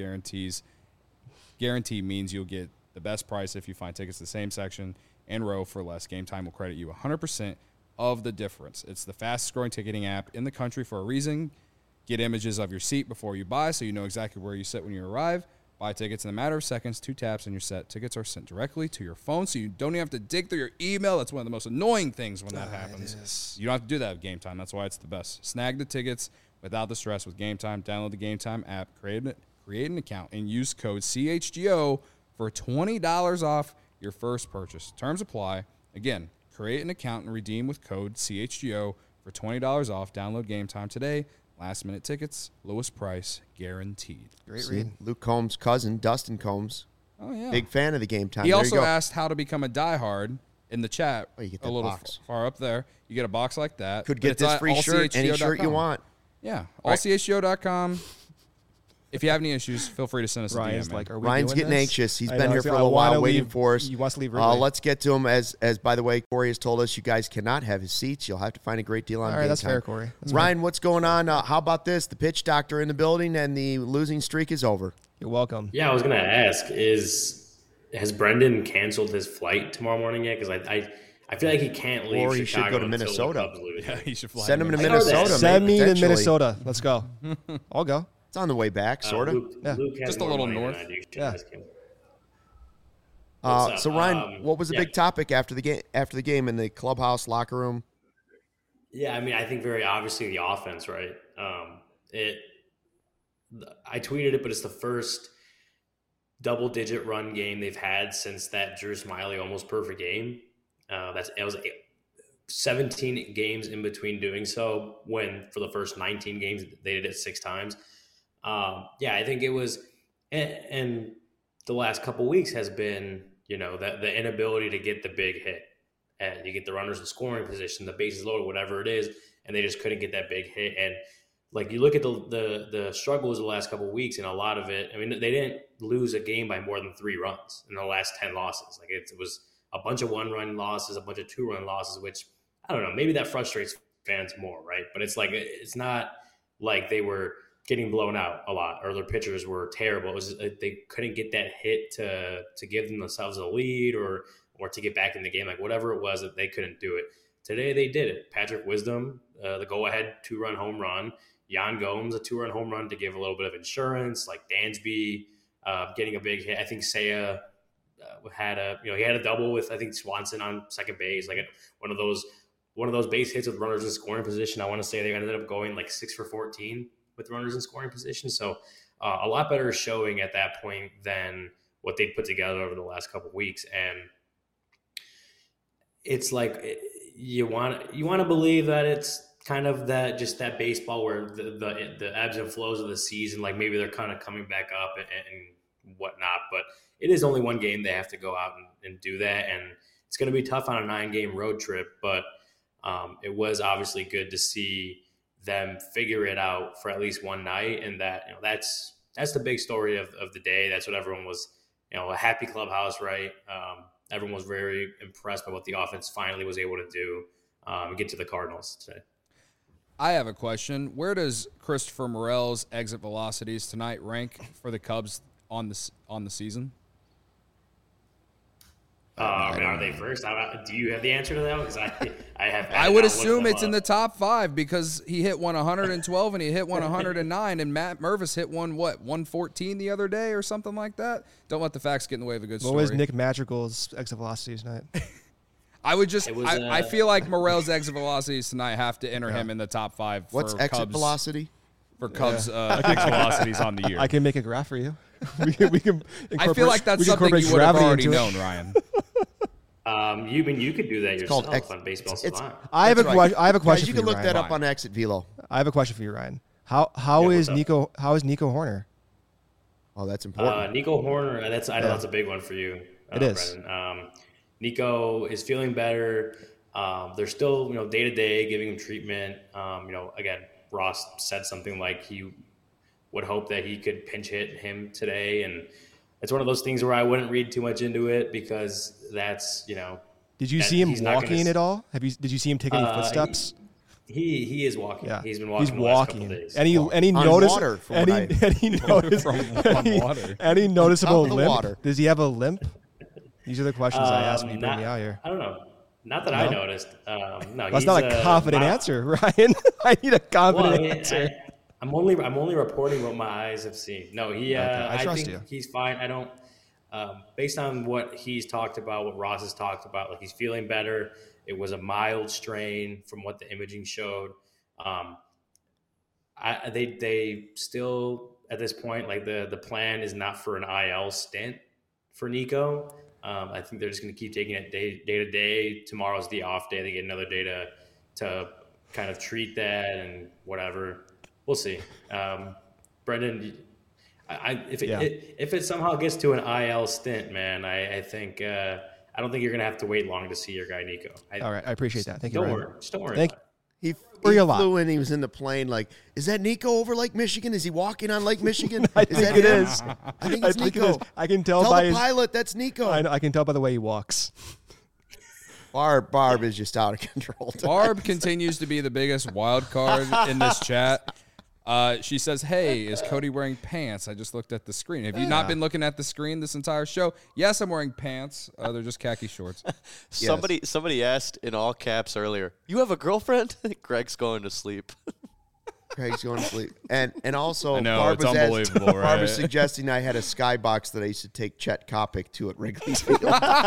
guarantee means you'll get the best price if you find tickets in the same section and row for less. Game Time will credit you 100% of the difference. It's the fastest-growing ticketing app in the country for a reason. Get images of your seat before you buy so you know exactly where you sit when you arrive. Buy tickets in a matter of seconds, 2 taps, and you're set. Tickets are sent directly to your phone so you don't even have to dig through your email. That's one of the most annoying things when that happens. You don't have to do that with Game Time. That's why it's the best. Snag the tickets without the stress with Game Time. Download the Game Time app, create an account, and use code CHGO for $20 off your first purchase. Terms apply. Again, create an account and redeem with code CHGO for $20 off. Download Game Time today. Last-minute tickets, lowest price, guaranteed. Great read. Luke Combs' cousin, Dustin Combs. Oh, yeah. Big fan of the Game Time. He There also you go. asked how to become a diehard in the chat. Oh, you get a that little box. far up there. You get a box like that. Could But get it's this at free shirt, any shirt you allchgo.com. want. Yeah, allchgo.com. If you have any issues, feel free to send us a Ryan's DM. like, are we Ryan's doing getting this? anxious. He's I been know, here so for a I little while wanna waiting leave- for us. He wants to leave early. Let's get to him. As by the way, Corey has told us you guys cannot have his seats. You'll have to find a great deal on All right, Game that's Time. fair, Corey. That's Ryan, what's going on? How about this? The pitch doctor in the building and the losing streak is over. You're welcome. Yeah, I was going to ask, has Brendan canceled his flight tomorrow morning yet? Because I feel like he can't leave Or he should Chicago go to until Minnesota. the Cubs lose. Yeah, he should fly. Send him to I know Minnesota. that. Send me to potentially. Minnesota. Let's go. I'll go. It's on the way back, sort of. Luke has Just a more little money than north. I do. Yeah. What's up? So Ryan, what was the yeah. big topic after the game? After the game in the clubhouse locker room? Yeah, I mean, I think very obviously the offense, right? I tweeted it, but it's the first double-digit run game they've had since that Drew Smiley almost perfect game. It was 17 games in between doing so. When for the first 19 games they did it 6 times. I think it was, and the last couple weeks has been, the inability to get the big hit. And you get the runners in scoring position, the bases loaded, whatever it is, and they just couldn't get that big hit. And like you look at the struggles of the last couple of weeks, and a lot of it, I mean, they didn't lose a game by more than 3 runs in the last 10 losses. Like it was a bunch of 1-run losses, a bunch of 2-run losses, which I don't know, maybe that frustrates fans more, right? But it's like it's not like they were getting blown out a lot or their pitchers were terrible. It was just, they couldn't get that hit to give themselves a lead or to get back in the game, like whatever it was that they couldn't do it. Today they did it. Patrick Wisdom, the go-ahead 2-run home run. Yan Gomes, a 2-run home run to give a little bit of insurance. Like Dansby getting a big hit. I think Seiya had a double with I think Swanson on second base. Like one of those base hits with runners in scoring position. I want to say they ended up going like 6 for 14 with runners in scoring position. So a lot better showing at that point than what they put together over the last couple of weeks. And it's like you want to believe that it's kind of that baseball where the ebbs and flows of the season, like maybe they're kind of coming back up and whatnot. But it is only one game. They have to go out and do that. And it's going to be tough on a 9-game road trip. But it was obviously good to see them figure it out for at least one night. And that's the big story of the day. That's what everyone was, a happy clubhouse, right? Everyone was very impressed by what the offense finally was able to do and get to the Cardinals today. I have a question. Where does Christopher Morel's exit velocities tonight rank for the Cubs on the season? Are they first? Do you have the answer to that? Because I have. I would assume it's in the top 5 because he hit one 112 and he hit one 109, and Matt Mervis hit one 114 the other day or something like that. Don't let the facts get in the way of a good story. What was Nick Madrigal's exit velocity tonight? I would just. was, I feel like Morel's exit velocities tonight have to enter him in the top 5. What's for exit Cubs. velocity? for Cubs pitch velocities on the year. I can make a graph for you. we can I feel like that's something you would have already known, Ryan. You could do that yourself on Baseball Savant. I have a question. Guys, you for can look Ryan. that up on Exit Velo. I have a question for you, Ryan. How is Nico Horner? Oh, that's important. Nico Horner. I know that's a big one for you. It is. Brendan. Nico is feeling better. They're still, day to day giving him treatment. Again, Ross said something like he would hope that he could pinch hit him today, and it's one of those things where I wouldn't read too much into it because that's Did you see him walking at all? Did you see him take any footsteps? He is walking. Yeah. He's been walking. He's the last walking. couple days. Any noticeable limp? Water. Does he have a limp? These are the questions I ask when you bring me out here. I don't know. Not that I noticed. No, that's not a confident answer, Ryan. I need a confident answer. I'm only reporting what my eyes have seen. No, I trust think you. He's fine. I don't. Based on what he's talked about, what Ross has talked about, like he's feeling better. It was a mild strain from what the imaging showed. They still at this point, like the plan is not for an IL stint for Nico. I think they're just going to keep taking it day to day. Tomorrow's the off day. They get another day to kind of treat that and whatever. We'll see. Brendan, if it somehow gets to an IL stint, man, I think I don't think you're going to have to wait long to see your guy Nico. All right, I appreciate that. Thank you. Don't worry. Just don't worry. Thank you. He flew in. He was in the plane. Like, is that Nico over Lake Michigan? Is he walking on Lake Michigan? I think it is. I think it's Nico. I can tell by the pilot that's Nico. I can tell by the way he walks. Barb is just out of control. Barb continues to be the biggest wild card in this chat. She says, "Hey, is Cody wearing pants? I just looked at the screen. Have you not been looking at the screen this entire show?" Yes, I'm wearing pants. They're just khaki shorts. Somebody asked in all caps earlier, "You have a girlfriend?" Greg's going to sleep. Greg's going to sleep. And also, I know, Barb it's unbelievable, right? Barb was suggesting I had a skybox that I used to take Chet Kopic to at Wrigley Field. You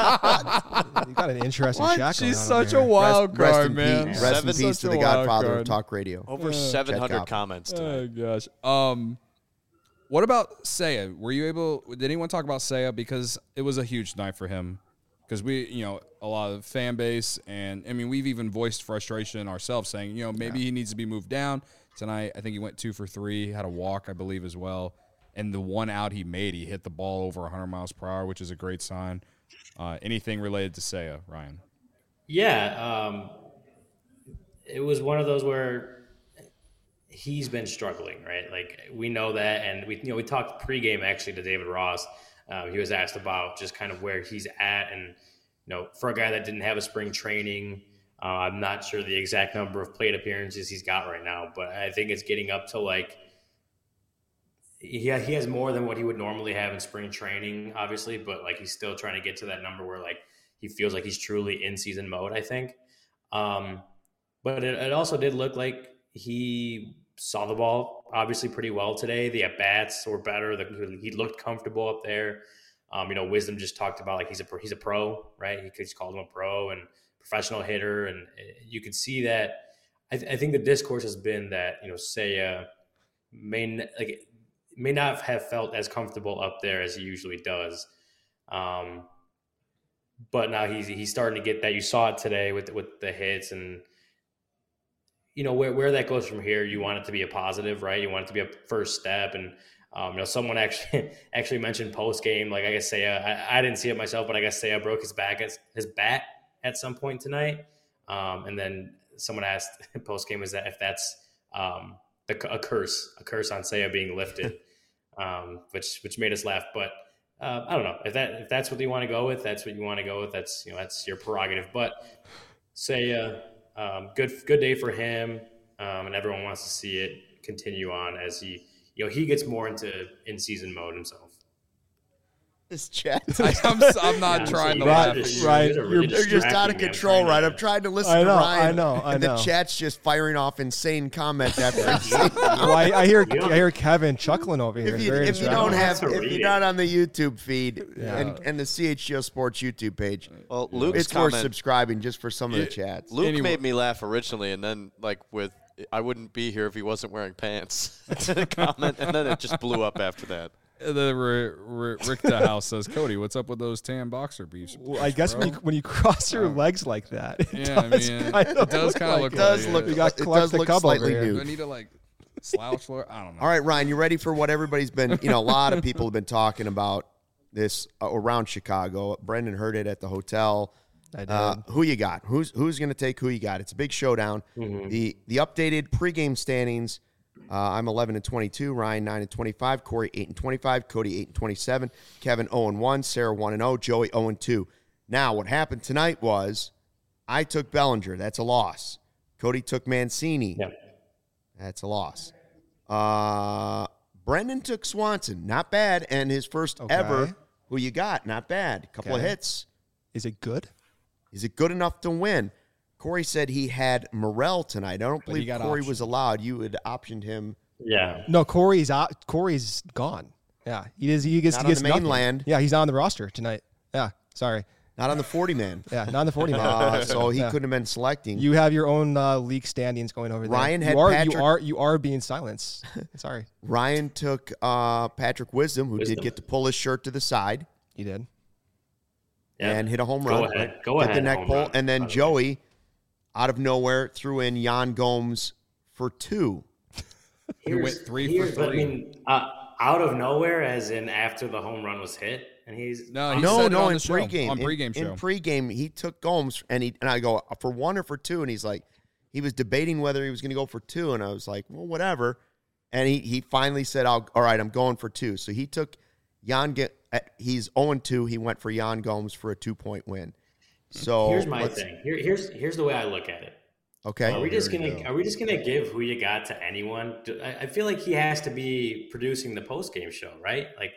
got an interesting chat going She's on such over a here. wild card, man. Rest in peace to the godfather of talk radio. Over 700 comments tonight. Oh, gosh. What about Seiya? Did anyone talk about Seiya? Because it was a huge night for him. Because a lot of fan base, and I mean, we've even voiced frustration ourselves, saying, maybe he needs to be moved down. Tonight, I think he went 2 for 3, had a walk, I believe, as well. And the one out he made, he hit the ball over 100 miles per hour, which is a great sign. Anything related to Seiya, Ryan? Yeah, it was one of those where he's been struggling, right? Like we know that, and we talked pregame actually to David Ross. He was asked about just kind of where he's at, and for a guy that didn't have a spring training. I'm not sure the exact number of plate appearances he's got right now, but I think it's getting up to like he has more than what he would normally have in spring training, obviously, but like he's still trying to get to that number where like he feels like he's truly in season mode, I think. But it also did look like he saw the ball obviously pretty well today. The at-bats were better. He looked comfortable up there. Wisdom just talked about like he's a pro, right? He just called him a pro and professional hitter, and you could see that. I think the discourse has been that Seiya may not have felt as comfortable up there as he usually does, but now he's starting to get that. You saw it today with the hits, and where that goes from here. You want it to be a positive, right? You want it to be a first step, and someone actually mentioned post game, like I guess Seiya. I didn't see it myself, but I guess Seiya broke his bat at some point tonight. And then someone asked post game, is that if that's a curse on Seiya being lifted, which made us laugh. But I don't know if that's what you want to go with. That's what you want to go with. That's that's your prerogative. But Seiya, good day for him, and everyone wants to see it continue on as he gets more into in season mode himself. This chat. I'm not trying to laugh. Right. You're just out of control, right? I'm trying to listen to Ryan. I know. And the chat's just firing off insane comments after I hear Kevin chuckling over here. If you're not on the YouTube feed and the CHGO Sports YouTube page, well, Luke's it's worth subscribing just for some of the chats. Luke made me laugh originally, and then like with I wouldn't be here if he wasn't wearing pants. Comment, and then it just blew up after that. The Richter House says, Cody, what's up with those tan boxer briefs? Well, I guess when you cross your legs like that, it does kind of look It does look. You got It Clark does the look Cub over slightly here. Do I nude. need to like slouch floor? I don't know. All right, Ryan, you ready for what everybody's been? A lot of people have been talking about this around Chicago. Brendan heard it at the hotel. I did. Who you got? Who's going to take who you got? It's a big showdown. The updated pregame standings. I'm 11-22. Ryan 9-25. Corey 8-25. Cody 8-27. Kevin 0-1. Sarah 1-0. Joey 0-2. Now, what happened tonight was I took Bellinger. That's a loss. Cody took Mancini. Yep. That's a loss. Brendan took Swanson. Not bad. And his first ever. Who you got? Not bad. Couple of hits. Is it good? Is it good enough to win? Corey said he had Morel tonight. I don't believe Corey was allowed. You had optioned him. Yeah. No, Corey's gone. Yeah, he gets Not he gets on the nothing. mainland. Yeah, he's not on the roster tonight. Yeah, sorry. Not on the 40-man. Yeah, not on the 40 man. So he couldn't have been selecting. You have your own league standings going over there. Ryan had you are being silenced. Sorry. Ryan took Patrick Wisdom, who did get to pull his shirt to the side You did. Yeah. and hit a home Go run. ahead. Go Hit ahead. the neck home pull. run, And then by the way. Joey, out of nowhere, threw in Jan Gomes for 2. He went 3 for 3. But I mean, out of nowhere, as in after the home run was hit, and he's No, he No, said it no, on in the show, pregame. on pregame in show. pregame, he took Gomes, and I go, for 1 or for 2? And he's like, he was debating whether he was going to go for 2, and I was like, well, whatever. And he finally said, all right, I'm going for 2. So he took he's 0-2. He went for Jan Gomes for a 2-point win. So here's my thing. Here's the way I look at it. Okay. Are we just gonna give who you got to anyone? I feel like he has to be producing the post game show, right? Like,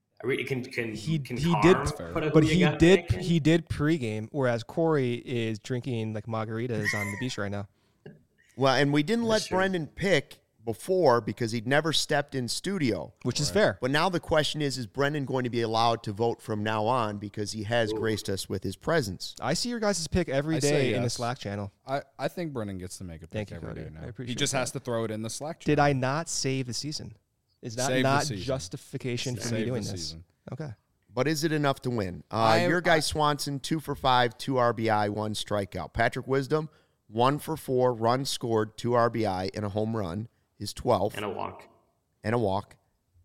He can did, Carm put a but who you he got did pick in? he did pregame, whereas Corey is drinking like margaritas on the beach right now. Well, and we didn't let That's true. Brendan pick before because he'd never stepped in studio. Which is fair. But now the question is Brendan going to be allowed to vote from now on because he has graced us with his presence? I see your guys' pick every I say day in the yes. Slack channel. I think Brennan gets to make a pick Thank you, every Cody. day I now. appreciate He just that. has to throw it in the Slack channel. Did I not save the season? Is that Save the not season. justification for me Save doing the this? season. Okay. But is it enough to win? I- Your guy Swanson, 2 for 5, 2 RBI, 1 strikeout. Patrick Wisdom, 1 for 4, runs scored, 2 RBI, and a home run, his 12th, and a walk. and a walk.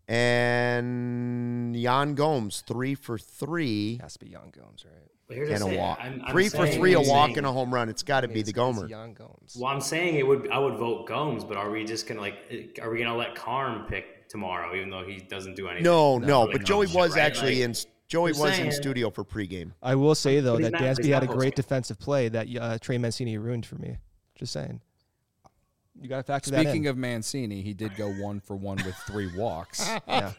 And Jan Gomes, 3 for 3, Has to be Young Gomes, right? But here's and the a thing, walk. I'm 3 for saying- 3, a I'm walk, saying- and a home run. It's got to be the Gomer. Young Gomes. Well, I'm saying I would vote Gomes, but are we just gonna are we gonna let Carm pick tomorrow, even though he doesn't do anything? No, really but Joey knows was shit, right? actually Like, Joey I'm was in saying- studio for pregame. I will say, though, But he's that not- Dansby he's had a not great postgame. defensive play that Trey Mancini ruined for me. Just saying. You got to factor that in. Speaking of Mancini, he did go 1 for 1 with 3 walks Yeah.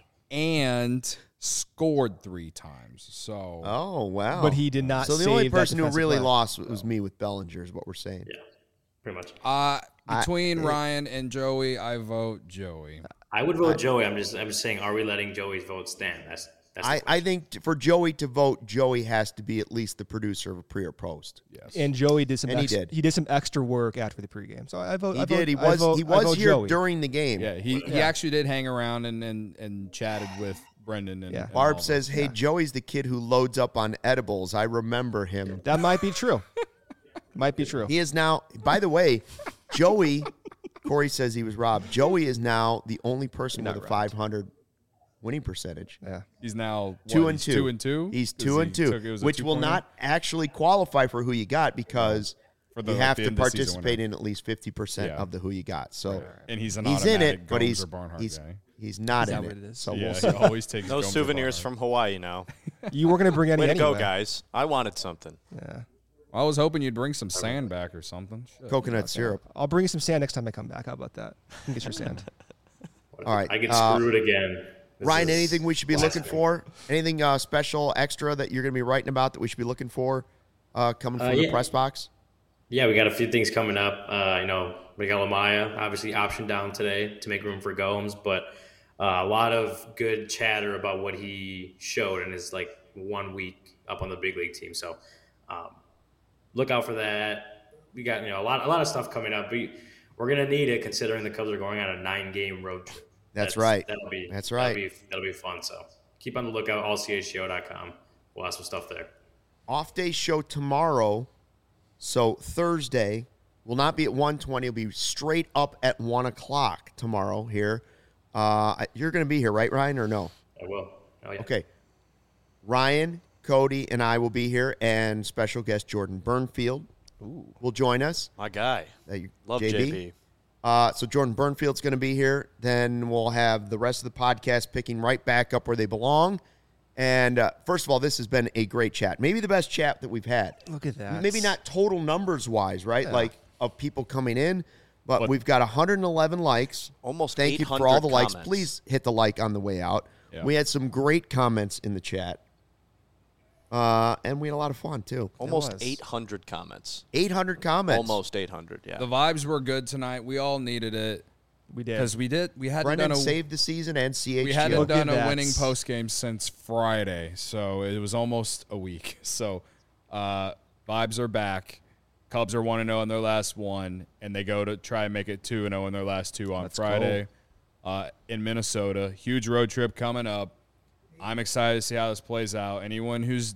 and scored 3 times. So Oh, wow. But he did not So the only save that person who defensive really play. lost was me with Bellinger, is what we're saying. Yeah, pretty much. between Ryan and Joey, I vote Joey. I would vote Joey. I'm just saying, are we letting Joey's vote stand? That's the I question. think for Joey to vote, Joey has to be at least the producer of a pre or post. Yes. And Joey did some. And he did. He did some extra work after the pregame. So I vote. He I did. He vote- was I vote here Joey. during the game. Yeah, he actually did hang around and chatted with Brendan. And, Yeah. and Barb all says, "Hey, Joey's the kid who loads up on edibles. I remember him. That might be true. Might be true. He is now. By the way, Joey. Corey says he was robbed. Joey is now the only person with a 500 winning percentage. Yeah. He's now 2 what, and he's 2. 2 and 2. He's 'Cause 2 and he 2, took- it was a which will 2-point not actually qualify for who you got because For the, you like, have the to end of season participate winner. in at least 50% Yeah. of the who you got. So And he's an he's in automatic it, but Gomes he's or Barnhart he's guy. he's not Is in that what it. it is? So Yeah, we'll he see. always takes No Gomes or souvenirs Barnhart. from Hawaii now. You were gonna bring any Way to anyway. go, guys. I wanted something. Yeah. I was hoping you'd bring some sand back or something. Shit. Coconut syrup. I'll bring you some sand next time I come back. How about that? You can get your sand. All right. I get screwed again. This Ryan, is anything we should be looking blasphemy. for? Anything special, extra that you're going to be writing about that we should be looking for coming from the yeah. press box? Yeah, we got a few things coming up. We got Lamaya, obviously option down today to make room for Gomes, but a lot of good chatter about what he showed in his 1 week up on the big league team. So look out for that. We got a lot of stuff coming up. We're We're gonna need it considering the Cubs are going on a 9-game road trip. That's right. That'll be fun. So keep on the lookout. allchgo.com. We'll have some stuff there. Off day show tomorrow. So Thursday will not be at 1:20. It'll be straight up at 1 o'clock tomorrow here. You're going to be here, right, Ryan, or no? I will. Oh, yeah. Okay. Ryan, Cody, and I will be here, and special guest Jordan Burnfield will join us. My guy. Love JB. So Jordan Burnfield's going to be here. Then we'll have the rest of the podcast picking right back up where they belong. And first of all, this has been a great chat. Maybe the best chat that we've had. Look at that. Maybe not total numbers-wise, right? Yeah. Like of people coming in. But we've got 111 likes. Almost Thank you 800 for all the likes. comments. Please hit the like on the way out. Yeah. We had some great comments in the chat. And we had a lot of fun, too. Almost was. 800 comments. 800 comments. Almost 800, yeah. The vibes were good tonight. We all needed it We did. because we hadn't Brendan done a saved the season and CHGO. we hadn't Look done at a that. winning post game since Friday, so it was almost a week. So vibes are back. Cubs are 1-0 in their last one, and they go to try and make it 2-0 in their last two on Friday in Minnesota. Huge road trip coming up. I'm excited to see how this plays out. Anyone who's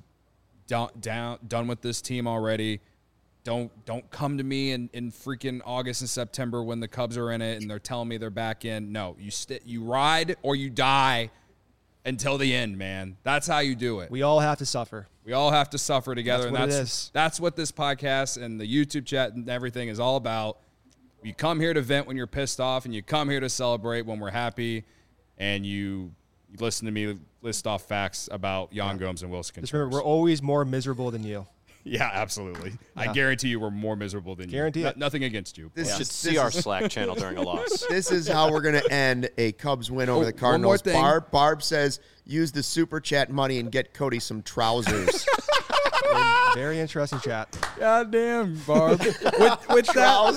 done with this team already, don't come to me in freaking August and September when the Cubs are in it and they're telling me they're back in. No, you ride or you die until the end, man. That's how you do it. We all have to suffer. We all have to suffer together, That's and what it is. that's what this podcast and the YouTube chat and everything is all about. You come here to vent when you're pissed off, and you come here to celebrate when we're happy, and you listen to me list off facts about Jan Gomes and Wilson Just Contreras. remember, we're always more miserable than you. Yeah, absolutely. I guarantee you we're more miserable than Guarantee you. it. Nothing against you. This You is- should this see our is- Slack channel during a loss. This is how we're going to end a Cubs win over the one more Cardinals. thing. Barb says, use the super chat money and get Cody some trousers. Very interesting chat. God damn, Barb. with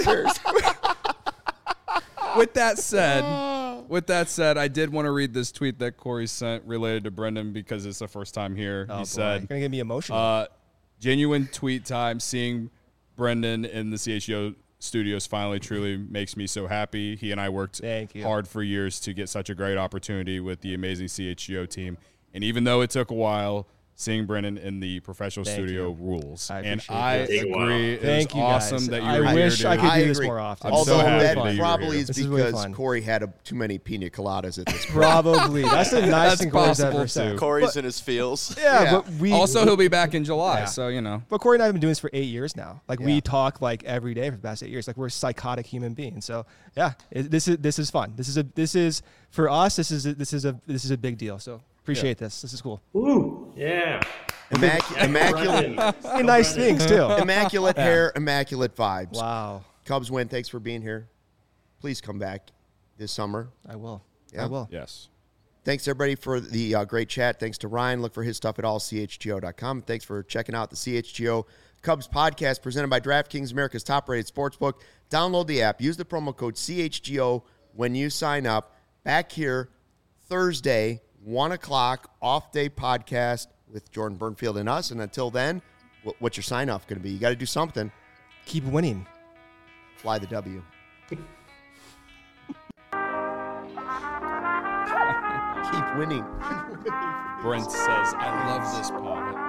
that said, I did want to read this tweet that Corey sent related to Brendan because it's the first time here. Oh, He boy. said, You're going to get me emotional. genuine tweet time. Seeing Brendan in the CHGO studios finally truly makes me so happy. He and I worked Thank you. hard for years to get such a great opportunity with the amazing CHGO team. And even though it took a while, seeing Brendan in the professional Thank studio you. rules. I And appreciate I that. Take a while. agree. It Thank was you, awesome guys. that you I were wish here, I dude. could do this agree. more often. I'm Although so happy that that you were probably here. is This is really because fun. Corey had too many pina coladas at this point. Probably. That's the nicest That's thing Corey's possible, ever said. too. Corey's in his feels. Yeah, Yeah. but we Also, he'll be back in July, Yeah. so, you know. But Corey and I have been doing this for 8 years now. Like Yeah. we talk like every day for the past 8 years. Like we're psychotic human beings. So yeah, this is fun. This is for us. This is a big deal. So appreciate this. This is cool. Woo! Yeah. Immaculate, Brendan. Nice things too. immaculate hair, immaculate vibes. Wow. Cubs win. Thanks for being here. Please come back this summer. I will. Yeah. I will. Yes. Thanks, everybody, for the great chat. Thanks to Ryan. Look for his stuff at allchgo.com. Thanks for checking out the CHGO Cubs podcast presented by DraftKings, America's top-rated sportsbook. Download the app. Use the promo code CHGO when you sign up. Back here Thursday, 1 o'clock, off-day podcast with Jordan Burnfield and us. And until then, what's your sign-off going to be? You got to do something. Keep winning. Fly the W. Keep winning. Brent says, I love this pod.